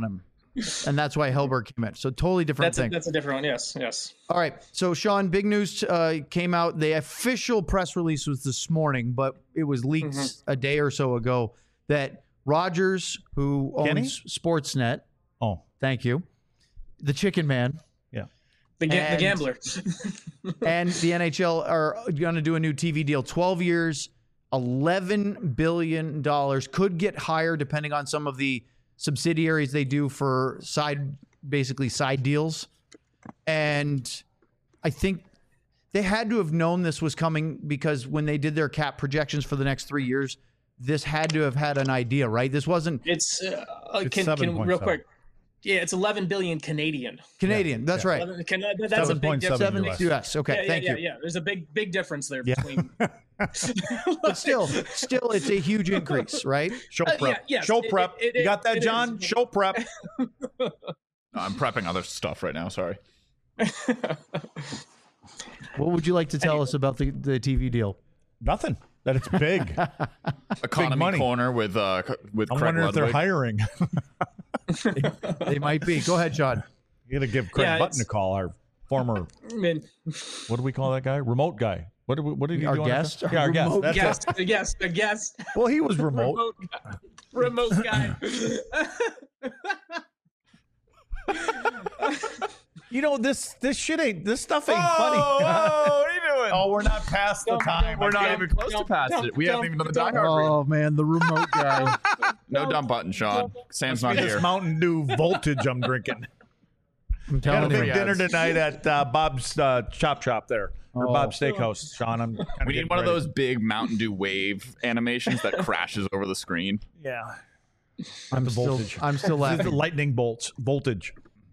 and that's why Hellberg came in. So totally different thing. That's a different one. Yes, yes. All right. So, Sean, big news came out. The official press release was this morning, but it was leaked a day or so ago that Rogers, who owns Sportsnet, thank you, the Chicken Man, the gambler, and the NHL are going to do a new TV deal. 12 years, $11 billion. Could get higher depending on some of the subsidiaries they do for side deals. And I think they had to have known this was coming because when they did their cap projections for the next 3 years, this had to have had an idea, right? This wasn't. It's can real quick. Yeah, it's 11 billion Canadian. That's right. That's a big difference. US. Okay, thank you. Yeah, there's a big difference there between. But still, it's a huge increase, right? Show prep. Show prep. You got that, John? Is. Show prep. No, I'm prepping other stuff right now. Sorry. What would you like to tell us about the TV deal? Nothing. That it's big. Economy money. Corner with I'm Craig wondering if they're Ludwig. hiring. They might be. Go ahead, Sean. You got to give Craig Button a call. Our former. What do we call that guy? Remote guy. What did he Our do? guest? Yeah, our guest. That's a guest. Well, he was remote. Remote guy. You know, this shit ain't. This stuff ain't Oh, funny. what are you doing? Oh, we're not past the time. We're not even close to past it. We haven't even done the Die Hard. Oh man, the remote guy. No dumb button, Sean. Sam's not This here. Mountain Dew Voltage I'm drinking. I'm Got a telling big you. dinner tonight at Bob's Chop Shop there. Or Bob's Steakhouse, Sean. I'm kinda We getting need one of ready. those big Mountain Dew wave animations that crashes over the screen. Yeah. I'm still This is laughing. the lightning bolts voltage.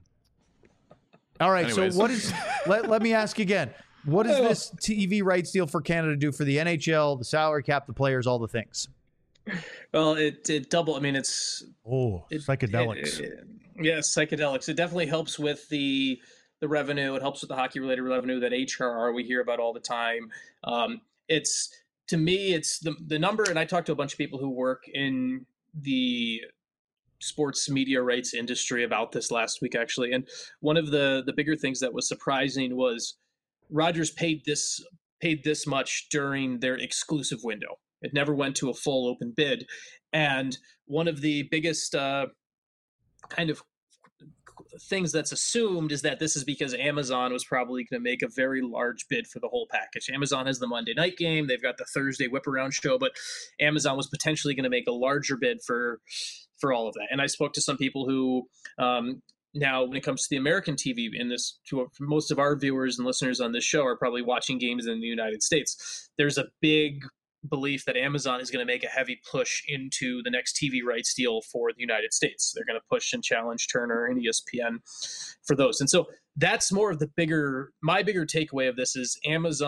All right. Anyways. So what is? Let me ask again. What does this TV rights deal for Canada do for the NHL, the salary cap, the players, all the things? Well, it double. I mean, it's Psychedelics. Yes, psychedelics. It definitely helps with the revenue. It helps with the hockey related revenue, that HRR we hear about all the time. It's, to me, it's the number. And I talked to a bunch of people who work in the sports media rights industry about this last week, actually. And one of the bigger things that was surprising was Rogers paid this much during their exclusive window. It never went to a full open bid. And one of the biggest kind of things that's assumed is that this is because Amazon was probably going to make a very large bid for the whole package. Amazon has the Monday night game. They've got the Thursday whip around show, but Amazon was potentially going to make a larger bid for all of that. And I spoke to some people who, now when it comes to the American TV in this, most of our viewers and listeners on this show are probably watching games in the United States. There's a big belief that Amazon is going to make a heavy push into the next TV rights deal for the United States. They're going to push and challenge Turner and ESPN for those. And so that's more of my bigger takeaway of this is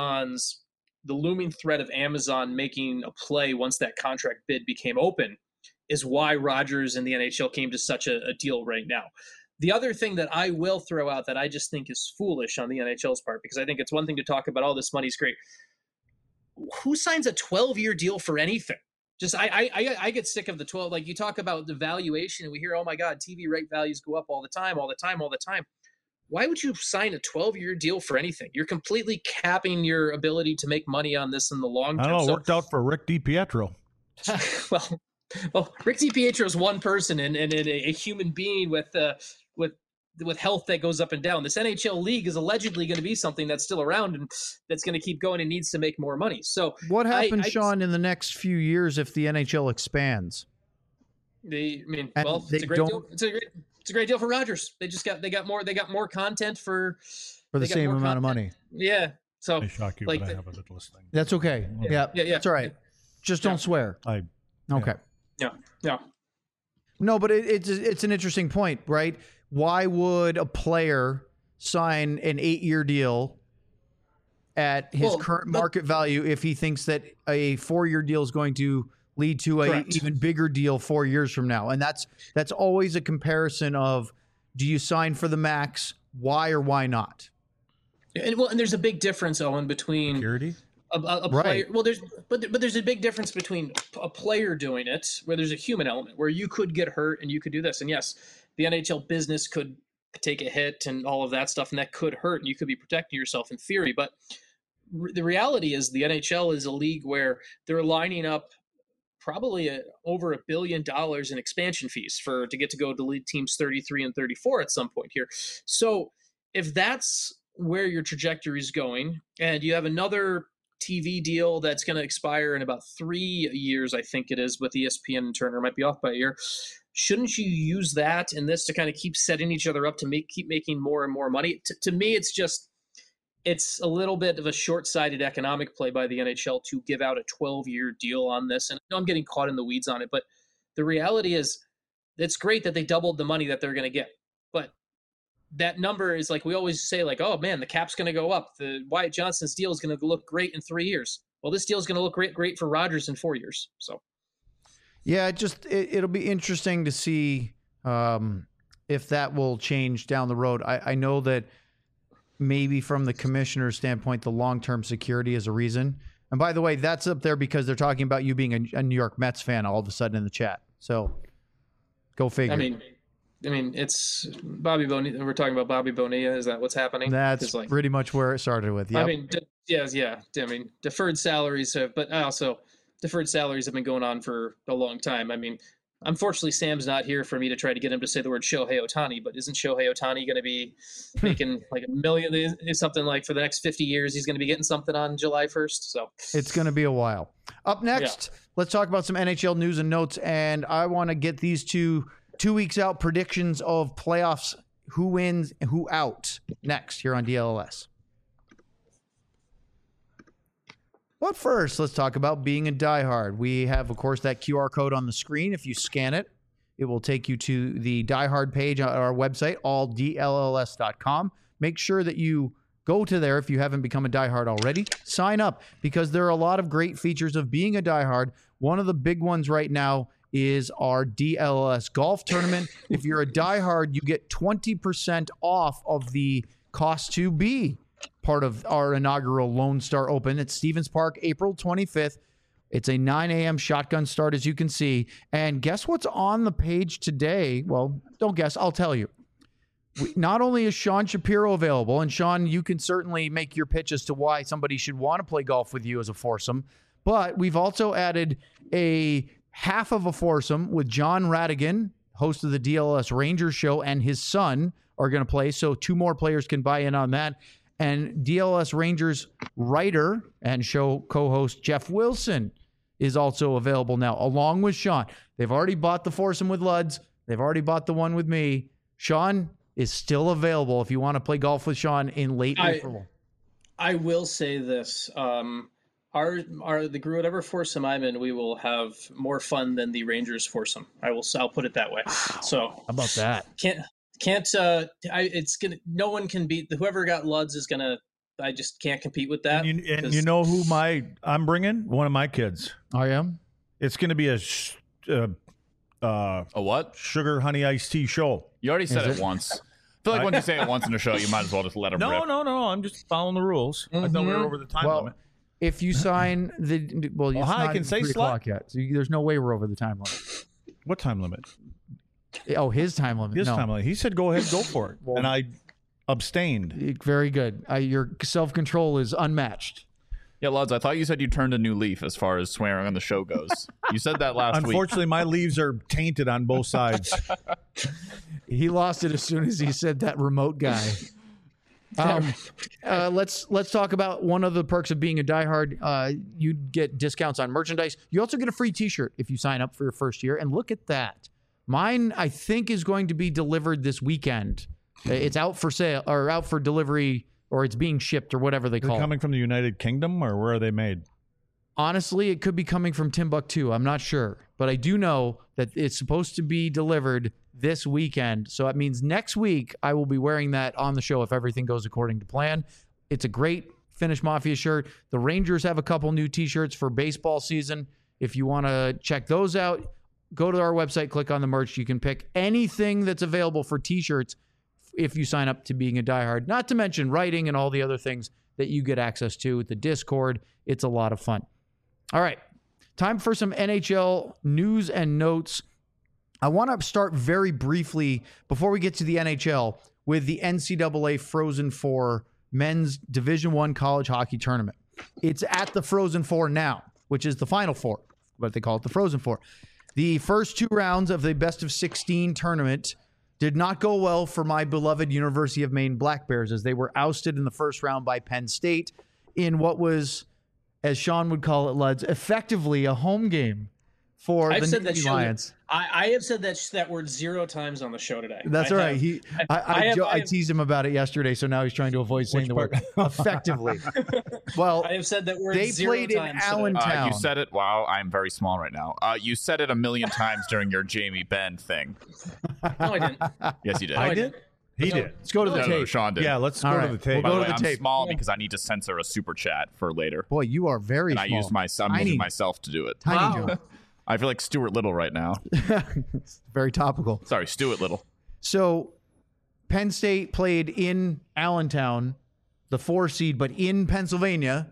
the looming threat of Amazon making a play once that contract bid became open is why Rogers and the NHL came to such a deal right now. The other thing that I will throw out that I just think is foolish on the NHL's part, because I think it's one thing to talk about, this money's great. Who signs a 12-year deal for anything? Just I get sick of the 12. Like, you talk about the valuation and we hear, oh my God, TV right values go up all the time. Why would you sign a 12-year deal for anything? You're completely capping your ability to make money on this in the long term. I don't know. It worked out for Rick DiPietro. Well, Rick DiPietro is one person and a human being with health that goes up and down. This NHL league is allegedly going to be something that's still around and that's going to keep going and needs to make more money. So what happens, Sean, in the next few years if the NHL expands? It's a great deal. It's a great deal for Rogers. They got more content for the same amount of money. Yeah. So I shock you, but I have a little listening. That's okay. Yeah. That's all right. Just don't swear. Okay. Yeah. No, but it's an interesting point, right? Why would a player sign an 8-year deal at his current market value if he thinks that a 4-year deal is going to lead to an even bigger deal 4 years from now? And that's always a comparison of, do you sign for the max? Why or why not? And there's a big difference, Owen, between Security? a Right. player. Well, there's a big difference between a player doing it, where there's a human element, where you could get hurt and you could do this, and yes, the NHL business could take a hit and all of that stuff, and that could hurt, and you could be protecting yourself in theory. But the reality is, the NHL is a league where they're lining up probably over $1 billion in expansion fees to get to go to lead teams 33 and 34 at some point here. So if that's where your trajectory is going, and you have another TV deal that's going to expire in about 3 years, I think it is, with ESPN and Turner, might be off by a year. Shouldn't you use that and this to kind of keep setting each other up to keep making more and more money? To me, it's a little bit of a short-sighted economic play by the NHL to give out a 12-year deal on this. And I know I'm getting caught in the weeds on it, but the reality is it's great that they doubled the money that they're going to get. But that number is, like we always say, like, oh man, the cap's going to go up. The Wyatt Johnston's deal is going to look great in 3 years. Well, this deal is going to look great for Rogers in 4 years. So, yeah, it'll be interesting to see if that will change down the road. I know that maybe from the commissioner's standpoint, the long-term security is a reason. And by the way, that's up there because they're talking about you being a New York Mets fan all of a sudden in the chat. So, go figure. I mean, it's Bobby Bonilla. We're talking about Bobby Bonilla. Is that what's happening? That's pretty much where it started with. Yep. I mean, yeah. I mean, deferred salaries have been going on for a long time. I mean, unfortunately, Sam's not here for me to try to get him to say the word Shohei Ohtani, but isn't Shohei Ohtani going to be making like $1 million, something like for the next 50 years? He's going to be getting something on July 1st. So it's going to be a while. Up next, Let's talk about some NHL news and notes. And I want to get these 2 weeks out predictions of playoffs, who wins and who out, next here on DLLS. But first, let's talk about being a diehard. We have, of course, that QR code on the screen. If you scan it, it will take you to the diehard page on our website, alldlls.com. Make sure that you go to there if you haven't become a diehard already. Sign up, because there are a lot of great features of being a diehard. One of the big ones right now is our DLLS golf tournament. If you're a diehard, you get 20% off of the cost to be part of our inaugural Lone Star Open at Stevens Park, April 25th. It's a 9 a.m. shotgun start, as you can see. And guess what's on the page today? Well, don't guess. I'll tell you. Not only is Sean Shapiro available, and Sean, you can certainly make your pitch as to why somebody should want to play golf with you as a foursome, but we've also added a half of a foursome with John Radigan, host of the DLS Rangers show, and his son are going to play. So 2 more players can buy in on that. And DLS Rangers writer and show co-host Jeff Wilson is also available now, along with Sean. They've already bought the foursome with Luds. They've already bought the one with me. Sean is still available if you want to play golf with Sean in late April. I will say this. The group, whatever foursome I'm in, we will have more fun than the Rangers foursome. I'll put it that way. So how about that? No one can beat whoever got Luds is gonna. I just can't compete with that. And you know who I'm bringing? One of my kids. I am. It's going to be A what? Sugar honey iced tea show. You already said it once. I feel like when you say it once in a show, you might as well just let them rip. No. I'm just following the rules. I thought we were over the time limit. If you sign it's I can say 3 o'clock yet. So there's no way we're over the time limit. What time limit? Oh, his time limit. Time limit. He said, "Go ahead, go for it," and I abstained. Very good. Your self-control is unmatched. Yeah, Luds, I thought you said you turned a new leaf as far as swearing on the show goes. You said that last week. Unfortunately, my leaves are tainted on both sides. He lost it as soon as he said that remote guy. Let's talk about one of the perks of being a diehard. You get discounts on merchandise. You also get a free T-shirt if you sign up for your first year. And look at that. Mine, I think, is going to be delivered this weekend. It's out for sale or out for delivery, or it's being shipped, or whatever they call it. Coming from the United Kingdom, or where are they made? Honestly, it could be coming from Timbuktu. I'm not sure. But I do know that it's supposed to be delivered this weekend. So that means next week I will be wearing that on the show if everything goes according to plan. It's a great Finnish Mafia shirt. The Rangers have a couple new T-shirts for baseball season. If you want to check those out, go to our website, click on the merch. You can pick anything that's available for T-shirts if you sign up to being a diehard, not to mention writing and all the other things that you get access to with the Discord. It's a lot of fun. All right, time for some NHL news and notes. I want to start very briefly before we get to the NHL with the NCAA Frozen Four men's Division I college hockey tournament. It's at the Frozen Four now, which is the Final Four, but they call it the Frozen Four. The first 2 rounds of the best of 16 tournament did not go well for my beloved University of Maine Black Bears, as they were ousted in the first round by Penn State in what was, as Sean would call it, Luds, effectively a home game for the Nittany Lions. I have said that word 0 times on the show today. That's all right. I teased him about it yesterday, so now he's trying to avoid saying the word effectively. Well, I have said that word they 0 played in times Allentown. You said it. Wow, I'm very small right now. You said it a million times during your Jamie Benn thing. No, I didn't. Yes, you did. I did? He did. Let's go to the No, tape. Sean did. Yeah, let's All go right. to the tape. We'll go By the to way, the I'm tape. small because I need to censor a super chat for later. Boy, you are very And small. I'm Tiny. using myself to do it. Tiny Wow. John. I feel like Stuart Little right now. It's very topical. Sorry, Stuart Little. So Penn State played in Allentown, the 4 seed, but in Pennsylvania,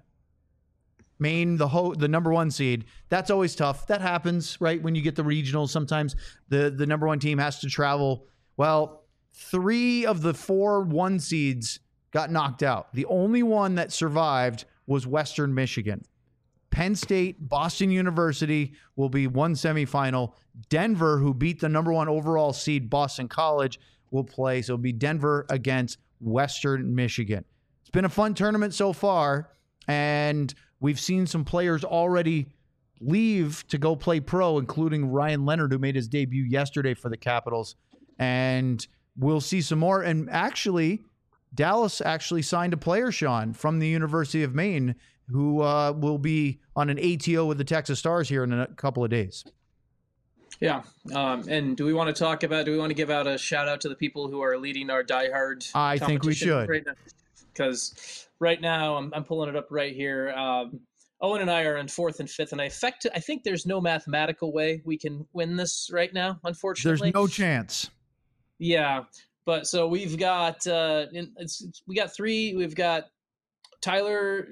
Maine, the number 1 seed. That's always tough. That happens, right? When you get the regionals, sometimes the number 1 team has to travel. Well, 3 of the 4 1 seeds got knocked out. The only one that survived was Western Michigan. Penn State, Boston University will be one semifinal. Denver, who beat the number 1 overall seed, Boston College, will play. So it'll be Denver against Western Michigan. It's been a fun tournament so far, and we've seen some players already leave to go play pro, including Ryan Leonard, who made his debut yesterday for the Capitals. And we'll see some more. And actually, Dallas actually signed a player, Sean, from the University of Maine, who will be on an ATO with the Texas Stars here in a couple of days. Yeah. And do we want to give out a shout out to the people who are leading our diehard? I think we should. Right now? Because right now I'm pulling it up right here. Owen and I are in 4th and 5th, and I think there's no mathematical way we can win this right now, unfortunately. There's no chance. Yeah. But so we've got we got 3. We've got Tyler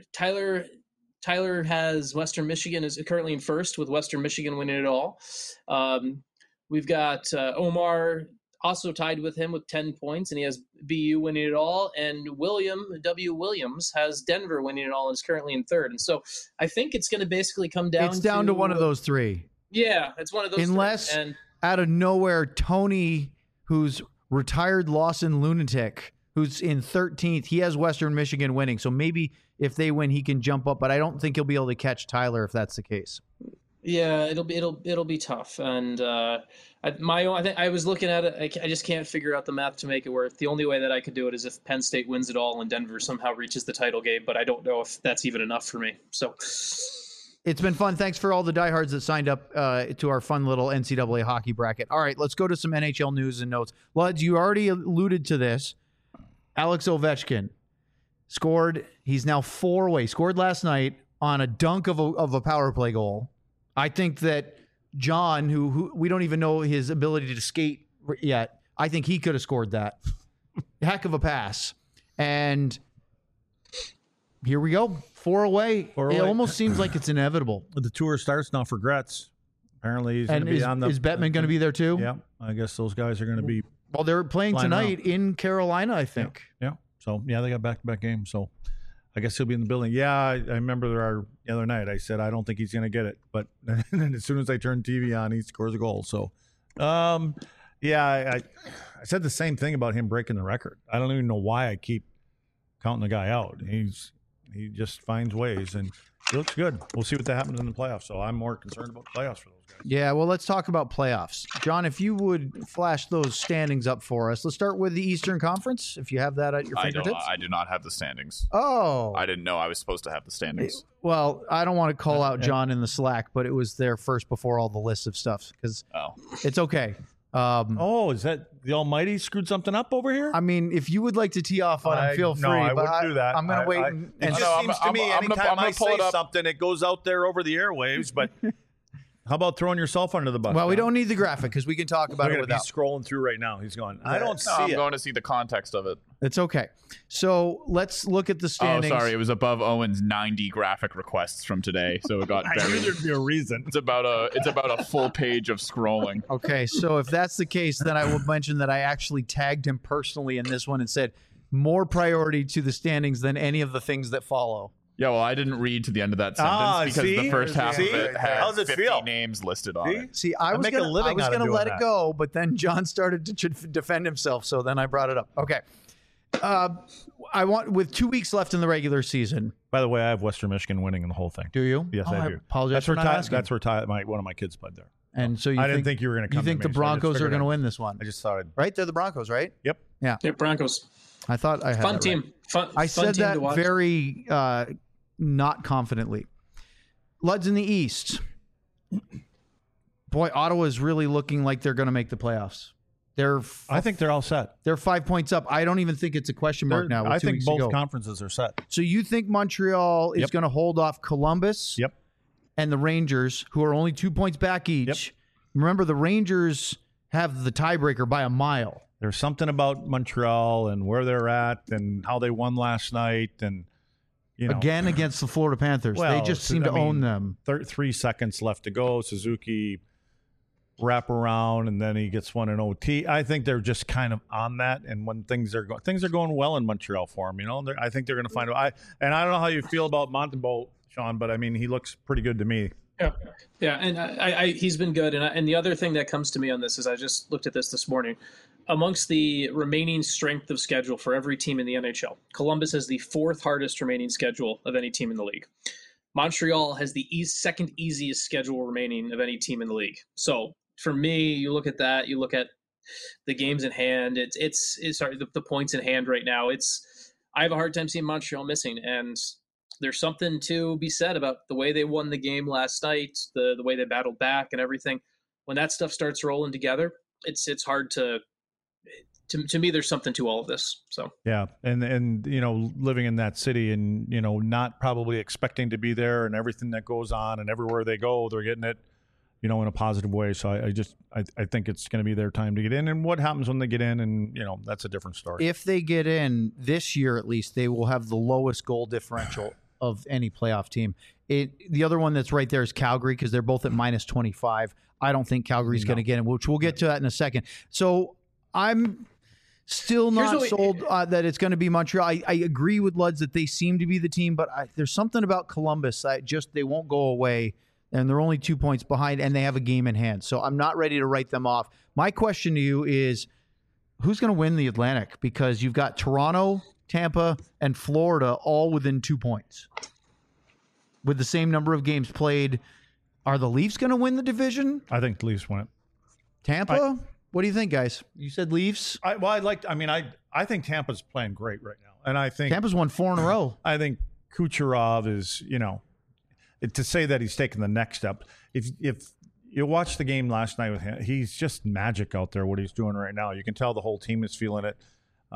has Western Michigan is currently in 1st with Western Michigan winning it all. We've got Omar also tied with him with 10 points, and he has BU winning it all. And William W. Williams has Denver winning it all and is currently in 3rd. And so I think it's going to basically come down. It's down to one of those 3. Yeah, it's one of those. Unless 3. And out of nowhere, Tony, who's retired Lawson lunatic, who's in 13th, he has Western Michigan winning. So maybe if they win, he can jump up, but I don't think he'll be able to catch Tyler if that's the case. yeah, it'll be tough. And I was looking at it. I just can't figure out the math to make it work. The only way that I could do it is if Penn State wins it all and Denver somehow reaches the title game. But I don't know if that's even enough for me. So it's been fun. Thanks for all the diehards that signed up to our fun little NCAA hockey bracket. All right, let's go to some NHL news and notes. Luds, you already alluded to this. Alex Ovechkin scored. He's now 4 away. Scored last night on a dunk of a power play goal. I think that John, who we don't even know his ability to skate yet, I think he could have scored that. Heck of a pass. And here we go. 4 away. 4 It away. almost seems like it's inevitable. The tour starts now for Gretz. Apparently he's going And to be on the... is Bettman going to be there too? Yeah, I guess those guys are going to be... Well, they're playing Flying tonight in Carolina, I think. Yeah. So, yeah, they got back-to-back games. So, I guess he'll be in the building. Yeah, I remember the other night I said, I don't think he's going to get it. But then as soon as I turn TV on, he scores a goal. So, I said the same thing about him breaking the record. I don't even know why I keep counting the guy out. He just finds ways, and he looks good. We'll see what that happens in the playoffs. So, I'm more concerned about the playoffs for those guys. Yeah, well, let's talk about playoffs. John, if you would flash those standings up for us. Let's start with the Eastern Conference, if you have that at your fingertips. I do not have the standings. Oh. I didn't know I was supposed to have the standings. Well, I don't want to call out John in the Slack, but it was there first before all the lists of stuff because it's okay. Oh, is that the Almighty screwed something up over here? I mean, if you would like to tee off on it, feel free. No, I but wouldn't do that. I'm going to wait. It just seems to me anytime I say something, it goes out there over the airwaves. But How about throwing yourself under the bus? Well, we John? don't need the graphic because we can talk about Look it at him. without. He's scrolling through right now. He's going, I don't see I'm it. going to see the context of it. It's okay. So let's look at the standings. Oh, sorry. It was above Owen's 90 graphic requests from today, so it got I knew buried. there'd be a reason. It's about a full page of scrolling. Okay, so if that's the case, then I will mention that I actually tagged him personally in this one and said more priority to the standings than any of the things that follow. Yeah, well, I didn't read to the end of that sentence because see? the first half See? of it had How's it 50 feel? names listed on it. See, I was make a gonna, living I was out of gonna doing let it that. go, but then John started to defend himself, so then I brought it up. Okay. I want with 2 weeks left in the regular season. By the way, I have Western Michigan winning the whole thing. Do you? Yes, Oh, I do. Apologize That's for where not asking. That's where one of my kids played there. And so I didn't think you were going to You come. think to the me, so I just Broncos are figured going to I'd- win this one? I just thought I'd. Right? They're the Broncos, right? Yep. Yeah. Yeah, Broncos. I thought I had Fun that team. right. I fun said team that to watch. very not confidently. Luds in the East. Boy, Ottawa is really looking like they're going to make the playoffs. I think they're all set. They're 5 points up. I don't even think it's a question mark now. With I 2 think weeks both to go. conferences are set. So you think Montreal is Yep. going to hold off Columbus Yep. and the Rangers, who are only 2 points back each? Remember, the Rangers have the tiebreaker by a mile. There's something about Montreal and where they're at and how they won last night and Again against the Florida Panthers. Well, they just seem to own them. 3 seconds left to go. Suzuki wrap around and then he gets one in OT. I think they're just kind of on that. And when things are going well in Montreal for them, I think they're going to find a. I don't know how you feel about Montembeault, Sean, but I mean he looks pretty good to me. Yeah, and I he's been good. And the other thing that comes to me on this is I just looked at this morning. Amongst the remaining strength of schedule for every team in the NHL, Columbus has the 4th hardest remaining schedule of any team in the league. Montreal has the second easiest schedule remaining of any team in the league. So for me, you look at that, you look at the games in hand. The points in hand right now. I have a hard time seeing Montreal missing, and there's something to be said about the way they won the game last night, the way they battled back and everything. When that stuff starts rolling together, it's hard to me, there's something to all of this. So Yeah, and living in that city and not probably expecting to be there and everything that goes on and everywhere they go, they're getting it, in a positive way. So I think it's going to be their time to get in. And what happens when they get in, and that's a different story. If they get in this year, at least they will have the lowest goal differential of any playoff team. The other one that's right there is Calgary because they're both at minus 25. I don't think Calgary's going to get in, which we'll get to that in a second. So I'm still not sold that it's going to be Montreal. I agree with Luds that they seem to be the team, but there's something about Columbus that they won't go away, and they're only 2 points behind, and they have a game in hand. So I'm not ready to write them off. My question to you is, who's going to win the Atlantic? Because you've got Toronto, Tampa, and Florida all within 2 points with the same number of games played. Are the Leafs going to win the division? I think the Leafs win it. Tampa? What do you think, guys? You said Leafs? I think Tampa's playing great right now. And I think Tampa's won 4 in a row. I think Kucherov is, to say that he's taken the next step. If you watch the game last night with him, he's just magic out there, what he's doing right now. You can tell the whole team is feeling it.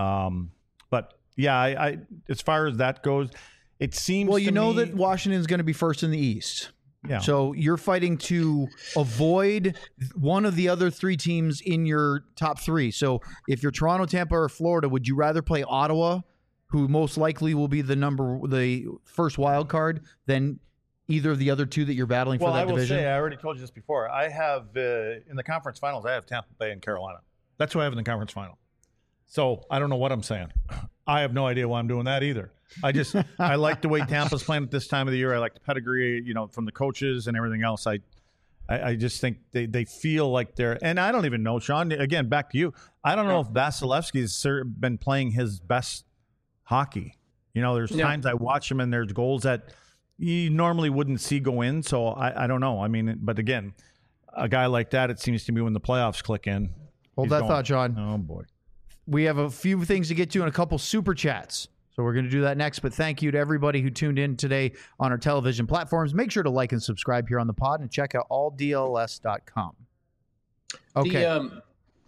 But yeah, I as far as that goes, it seems that Washington's going to be first in the East. Yeah. So you're fighting to avoid one of the other 3 teams in your top 3. So if you're Toronto, Tampa, or Florida, would you rather play Ottawa, who most likely will be the first wild card, than either of the other 2 that you're battling for that division? Well, I will say, I already told you this before. I have in the conference finals, I have Tampa Bay and Carolina. That's who I have in the conference final. So I don't know what I'm saying. I have no idea why I'm doing that either. I like the way Tampa's playing at this time of the year. I like the pedigree, from the coaches and everything else. I just think they feel like they're, and I don't even know, Sean, again, back to you. I don't know if Vasilevsky's been playing his best hockey. There's times I watch him and there's goals that you normally wouldn't see go in. So I don't know. I mean, but again, a guy like that, it seems to me when the playoffs click in. Hold that thought, John. Oh, boy. We have a few things to get to and a couple super chats. So we're going to do that next. But thank you to everybody who tuned in today on our television platforms. Make sure to like and subscribe here on the pod and check out alldls.com. Okay. And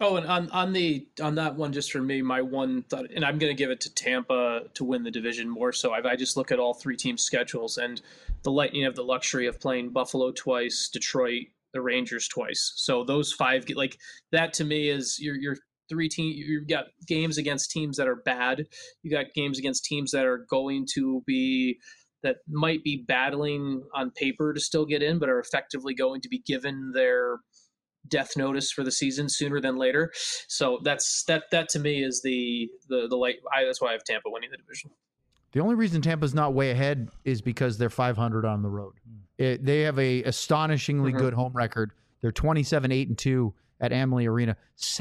on that one, just for me, my one thought, and I'm going to give it to Tampa to win the division more so. I just look at all 3 teams' schedules, and the Lightning have the luxury of playing Buffalo twice, Detroit, the Rangers twice. So those 5, like that to me is your 3 team. You've got games against teams that are bad. You got games against teams that are going to be, that might be battling on paper to still get in, but are effectively going to be given their death notice for the season sooner than later. So that to me is the light. That's why I have Tampa winning the division. The only reason Tampa's not way ahead is because they're 500 on the road. They have a astonishingly good home record. They're 27-8-2 at Amalie Arena,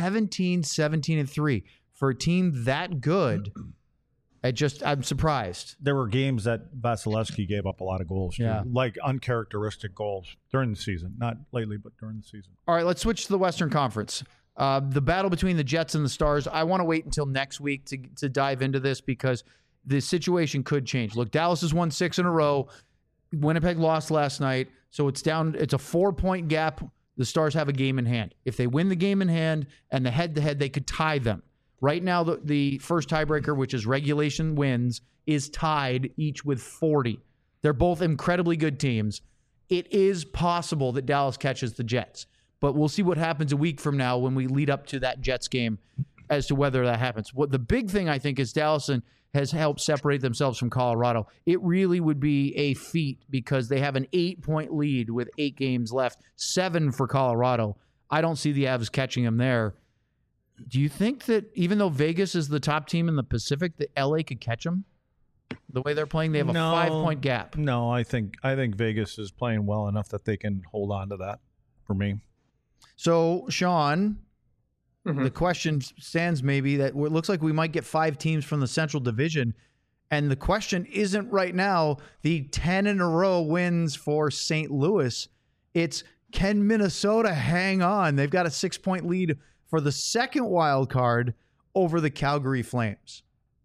17-17-3 for a team that good. I'm surprised. There were games that Vasilevsky gave up a lot of goals, too, like uncharacteristic goals during the season. Not lately, but during the season. All right, let's switch to the Western Conference. The battle between the Jets and the Stars, I want to wait until next week to dive into this because the situation could change. Look, Dallas has won 6 in a row. Winnipeg lost last night, so it's down. It's a 4-point gap. The Stars have a game in hand. If they win the game in hand and the head-to-head, they could tie them. Right now, the first tiebreaker, which is regulation wins, is tied each with 40. They're both incredibly good teams. It is possible that Dallas catches the Jets, but we'll see what happens a week from now when we lead up to that Jets game as to whether that happens. What the big thing, I think, is Dallas has helped separate themselves from Colorado. It really would be a feat because they have an 8-point lead with 8 games left, 7 for Colorado. I don't see the Avs catching them there. Do you think that even though Vegas is the top team in the Pacific, that LA could catch them? The way they're playing, they have a 5-point gap. No, I think Vegas is playing well enough that they can hold on to that for me. So, Sean, the question stands maybe that it looks like we might get 5 teams from the Central Division. And the question isn't right now the 10 in a row wins for St. Louis. It's, can Minnesota hang on? They've got a 6-point lead for the second wild card over the Calgary Flames.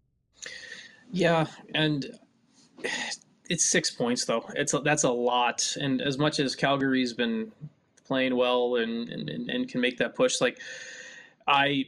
Yeah, and it's 6 points though. That's a lot. And as much as Calgary's been playing well and can make that push, like I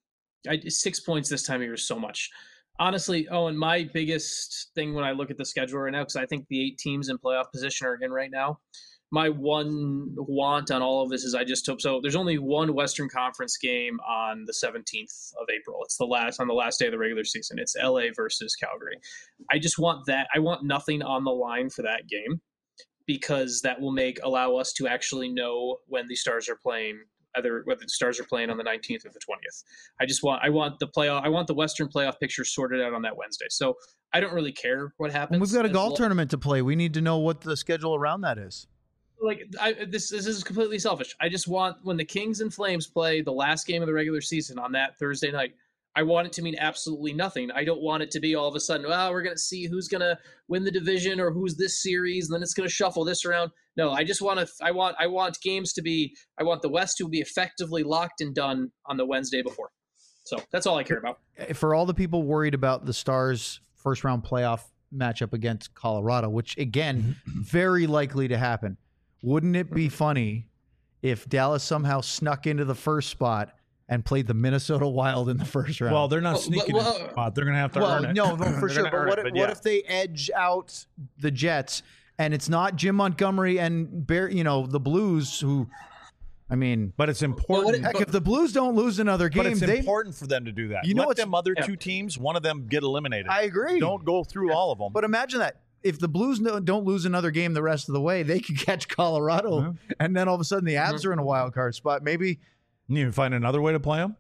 6 points this time of year is so much. Honestly, and my biggest thing when I look at the schedule right now, because I think the 8 teams in playoff position are in right now, my one want on all of this is I just hope so. There's only one Western Conference game on the 17th of April. It's on the last day of the regular season. It's LA versus Calgary. I just want that. I want nothing on the line for that game because that will allow us to actually know when the Stars are playing, whether the Stars are playing on the 19th or the 20th. I want the Western playoff picture sorted out on that Wednesday. So I don't really care what happens. And we've got a golf tournament to play. We need to know what the schedule around that is. Like this is completely selfish. I just want when the Kings and Flames play the last game of the regular season on that Thursday night, I want it to mean absolutely nothing. I don't want it to be all of a sudden, we're going to see who's going to win the division or who's this series, and then it's going to shuffle this around. No, I just want to. I want games to be. I want the West to be effectively locked and done on the Wednesday before. So that's all I care about. For all the people worried about the Stars' first round playoff matchup against Colorado, which again, very likely to happen. Wouldn't it be funny if Dallas somehow snuck into the first spot and played the Minnesota Wild in the first round? Well, they're not sneaking in the spot. They're going to have to earn it. No, for sure. But what if they edge out the Jets and it's not Jim Montgomery and the Blues who, I mean. But it's important. Heck, if the Blues don't lose another game. But it's important for them to do that. Let them other 2 teams, one of them get eliminated. I agree. Don't go through all of them. But imagine that. If the Blues don't lose another game the rest of the way, they could catch Colorado, and then all of a sudden the Avs are in a wild card spot. Maybe you find another way to play them.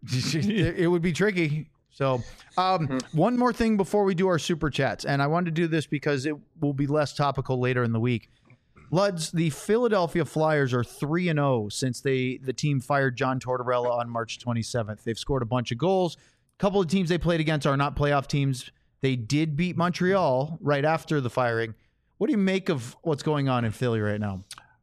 It would be tricky. So, one more thing before we do our super chats, and I wanted to do this because it will be less topical later in the week. Luds, the Philadelphia Flyers are 3-0 since the team fired John Tortorella on March 27th. They've scored a bunch of goals. A couple of teams they played against are not playoff teams. They did beat Montreal right after the firing. What do you make of what's going on in Philly right now?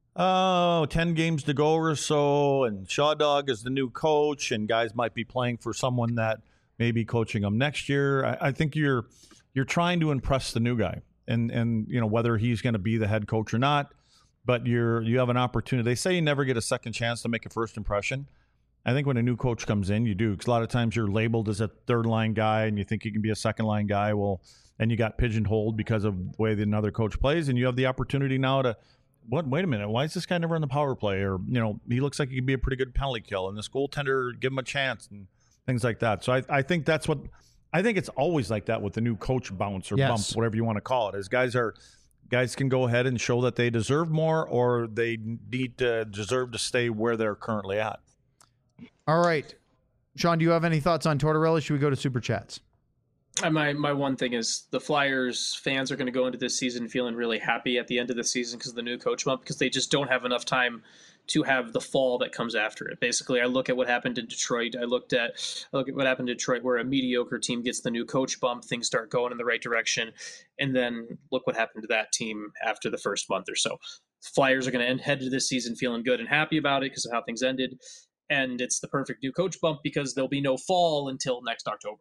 10 games to go or so, and Shaw Dog is the new coach, and guys might be playing for someone that may be coaching them next year. I think you're trying to impress the new guy, and whether he's going to be the head coach or not, but you have an opportunity. They say you never get a second chance to make a first impression. I think when a new coach comes in, you do, because a lot of times you're labeled as a third-line guy and you think you can be a second-line guy. Well, and you got pigeonholed because of the way that another coach plays, and you have the opportunity now to what? Wait a minute. Why is this guy never on the power play? Or, he looks like he could be a pretty good penalty kill, and this goaltender, give him a chance and things like that. So I think that's what I think it's always like that with the new coach bounce or bump, whatever you want to call it. Is guys can go ahead and show that they deserve more, or they deserve to stay where they're currently at. All right. Sean, do you have any thoughts on Tortorella? Should we go to Super Chats? My one thing is the Flyers fans are going to go into this season feeling really happy at the end of the season because of the new coach bump, because they just don't have enough time to have the fall that comes after it. Basically, I look at what happened in Detroit. I look at what happened in Detroit, where a mediocre team gets the new coach bump, things start going in the right direction, and then look what happened to that team after the first month or so. Flyers are going to head to this season feeling good and happy about it because of how things ended, and it's the perfect new coach bump because there'll be no fall until next October.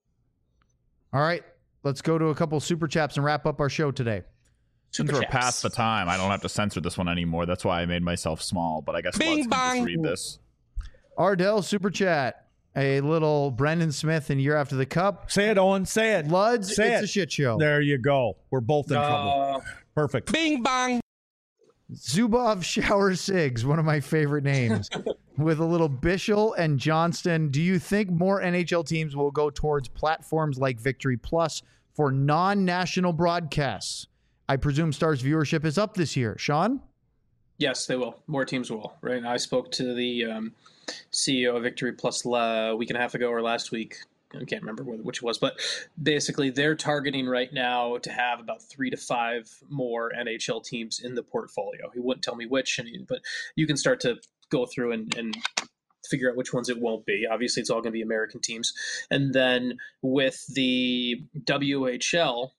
All right, let's go to a couple Super Chats and wrap up our show today. Since we're past the time, I don't have to censor this one anymore. That's why I made myself small, but I guess Bing, can just read this. Ardell Super Chat. A little Brendan Smith in Year After the Cup. Say it, Owen. Say it. Luds, say it's a shit show. There you go. We're both in trouble. Perfect. Bing bong. Zubov Shower Sigs, one of my favorite names, with a little Bischel and Johnston. Do you think more NHL teams will go towards platforms like Victory Plus for non-national broadcasts? I presume Stars viewership is up this year. Sean? Yes, they will. More teams will. Right. I spoke to the CEO of Victory Plus a week and a half ago or last week. I can't remember which it was, but basically they're targeting right now to have about 3 to 5 more NHL teams in the portfolio. He wouldn't tell me which, but you can start to go through and figure out which ones it won't be. Obviously, it's all going to be American teams. And then with the WHL,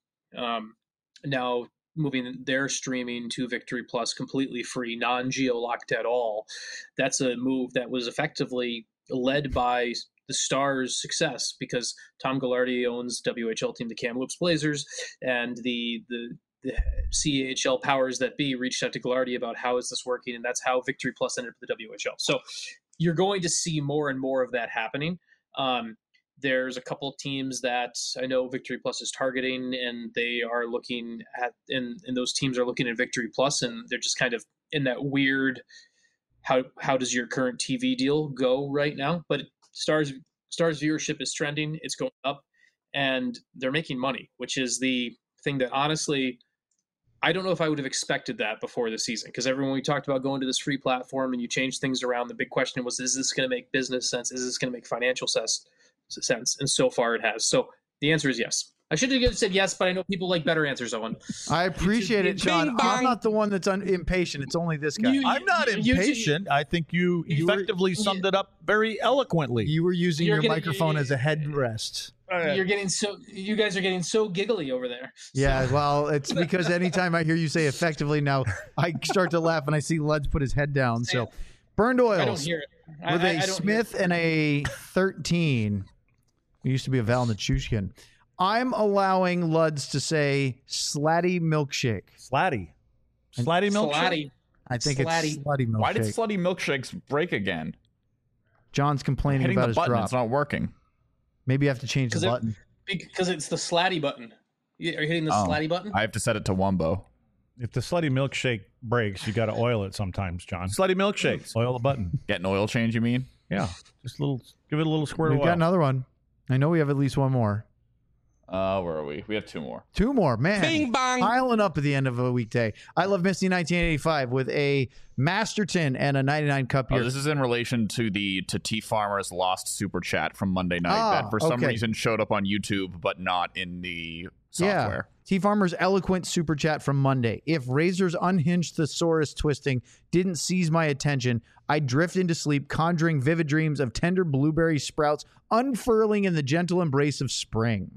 now moving their streaming to Victory Plus completely free, non-geo-locked at all, that's a move that was effectively led by the Stars' success because Tom Ghilardi owns WHL team, the Kamloops Blazers, and the CHL powers that be reached out to Ghilardi about how is this working, and that's how Victory Plus ended up with the WHL. So you're going to see more and more of that happening. There's a couple of teams that I know Victory Plus is targeting, and they are looking at, and those teams are looking at Victory Plus, and they're just kind of in that weird, how does your current TV deal go right now? But Stars viewership is trending. It's going up, and they're making money, which is the thing that honestly, I don't know if I would have expected that before the season, because everyone we talked about going to this free platform and you change things around, the big question was, is this going to make business sense? Is this going to make financial sense? And so far it has. So the answer is yes. I should have said yes, but I know people like better answers, Owen. I appreciate it, Sean. I'm not the one that's impatient. It's only this guy. I'm not impatient. I think you effectively summed it up very eloquently. You were using your microphone as a headrest. You guys are getting so giggly over there. Yeah, well, it's because anytime I hear you say effectively now, I start to laugh and I see Luds put his head down. So, Burned Oils. I don't hear it. With a Smith and a 13. It used to be a Val Nichushkin. I'm allowing Luds to say Slatty Milkshake. Slatty Milkshake? Slatty. I think it's Slutty Milkshake. Why did Slutty Milkshakes break again? John's complaining about his button, drop. It's not working. Maybe you have to change the button. Because it's the Slatty button. Are you hitting the Slatty button? I have to set it to Wumbo. If the Slutty Milkshake breaks, you got to oil it sometimes, John. Slutty Milkshakes. Oil the button. Get an oil change, you mean? Yeah. Just give it a little squirt of oil. We've got another one. I know we have at least one more. Where are we? We have 2 more. 2 more, man. Bing bong. Piling up at the end of a weekday. I Love Misty 1985 with a Masterton and a 99 Cup year. This is in relation to T Farmer's lost super chat from Monday night that for some reason showed up on YouTube but not in the software. Yeah. T Farmer's eloquent super chat from Monday. If Razor's unhinged thesaurus twisting didn't seize my attention, I'd drift into sleep, conjuring vivid dreams of tender blueberry sprouts unfurling in the gentle embrace of spring.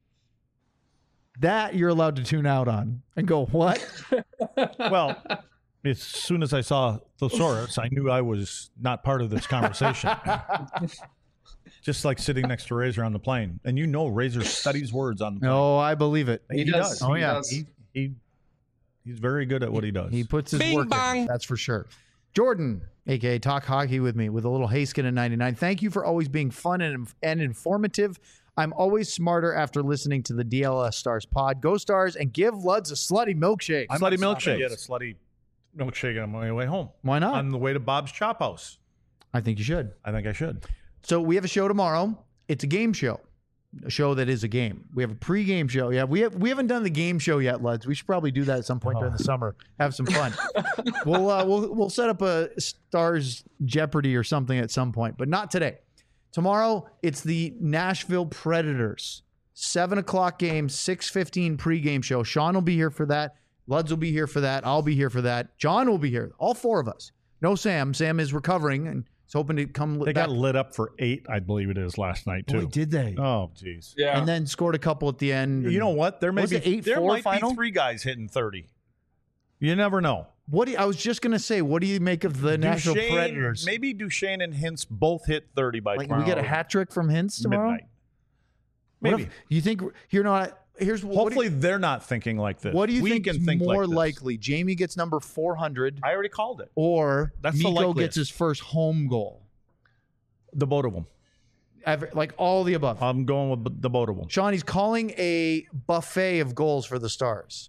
That you're allowed to tune out on and go, what? Well, as soon as I saw thesaurus, I knew I was not part of this conversation. Just like sitting next to Razor on the plane. And Razor studies words on the plane. Oh, I believe it. He does. Oh, yeah. He's very good at what he does. He puts his work in. That's for sure. Jordan, a.k.a. Talk Hockey with me, with a little Haskin in 99. Thank you for always being fun and informative. I'm always smarter after listening to the DLS Stars pod. Go Stars and give Luds a Slutty Milkshake. Slutty Milkshake. Get a Slutty milkshake on my way home. Why not? On the way to Bob's Chop House. I think you should. I think I should. So we have a show tomorrow. It's a game show. A show that is a game. We have a pre-game show. Yeah, we haven't done the game show yet, Luds. We should probably do that at some point during the summer. Have some fun. We'll set up a Stars Jeopardy or something at some point, but not today. Tomorrow it's the Nashville Predators 7:00 game, 6:15 pre-game show. Sean will be here for that. Luds will be here for that. I'll be here for that. John will be here. All four of us. No Sam. Sam is recovering and is hoping to come. They got lit up for 8, I believe it is, last night too. Boy, did they? Oh, jeez. Yeah. And then scored a couple at the end. You know what? There might be 8-4 3 guys hitting 30. You never know. I was just gonna say, what do you make of the Nashville Predators? Maybe Duchesne and Hintz both hit 30 by tomorrow. We get a hat trick from Hintz tomorrow. Midnight. Maybe. You think you're not? Hopefully they're not thinking like this. What do you think is more like likely? Jamie gets number 400. I already called it. Or That's the Mikko likeliest. gets his first home goal. The both of them. Like all the above. I'm going with the both of them. Sean, he's calling a buffet of goals for the Stars.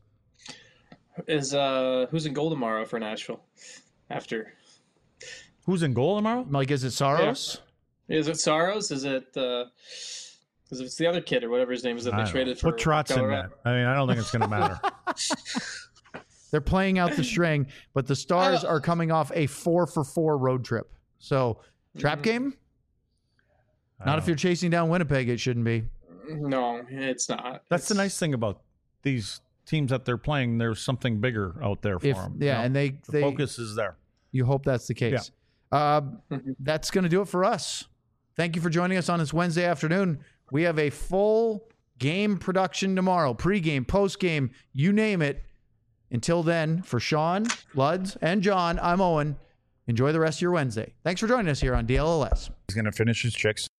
Is who's in goal tomorrow for Nashville? After Who's in goal tomorrow? Like, is it Saros? Yeah. Is it Saros? Is it? Because it's the other kid or whatever his name is that they traded for. Put Trotz in that. I mean, I don't think it's going to matter. They're playing out the string, but the Stars are coming off a 4-for-4 road trip. So, trap game? Not if you're chasing down Winnipeg, it shouldn't be. No, it's not. That's the nice thing about these teams that they're playing. There's something bigger out there for them. Yeah, and the focus is there. You hope that's the case. Yeah. That's going to do it for us. Thank you for joining us on this Wednesday afternoon. We have a full game production tomorrow, pregame, postgame, you name it. Until then, for Sean, Luds, and John, I'm Owen. Enjoy the rest of your Wednesday. Thanks for joining us here on DLLS. He's going to finish his chicks.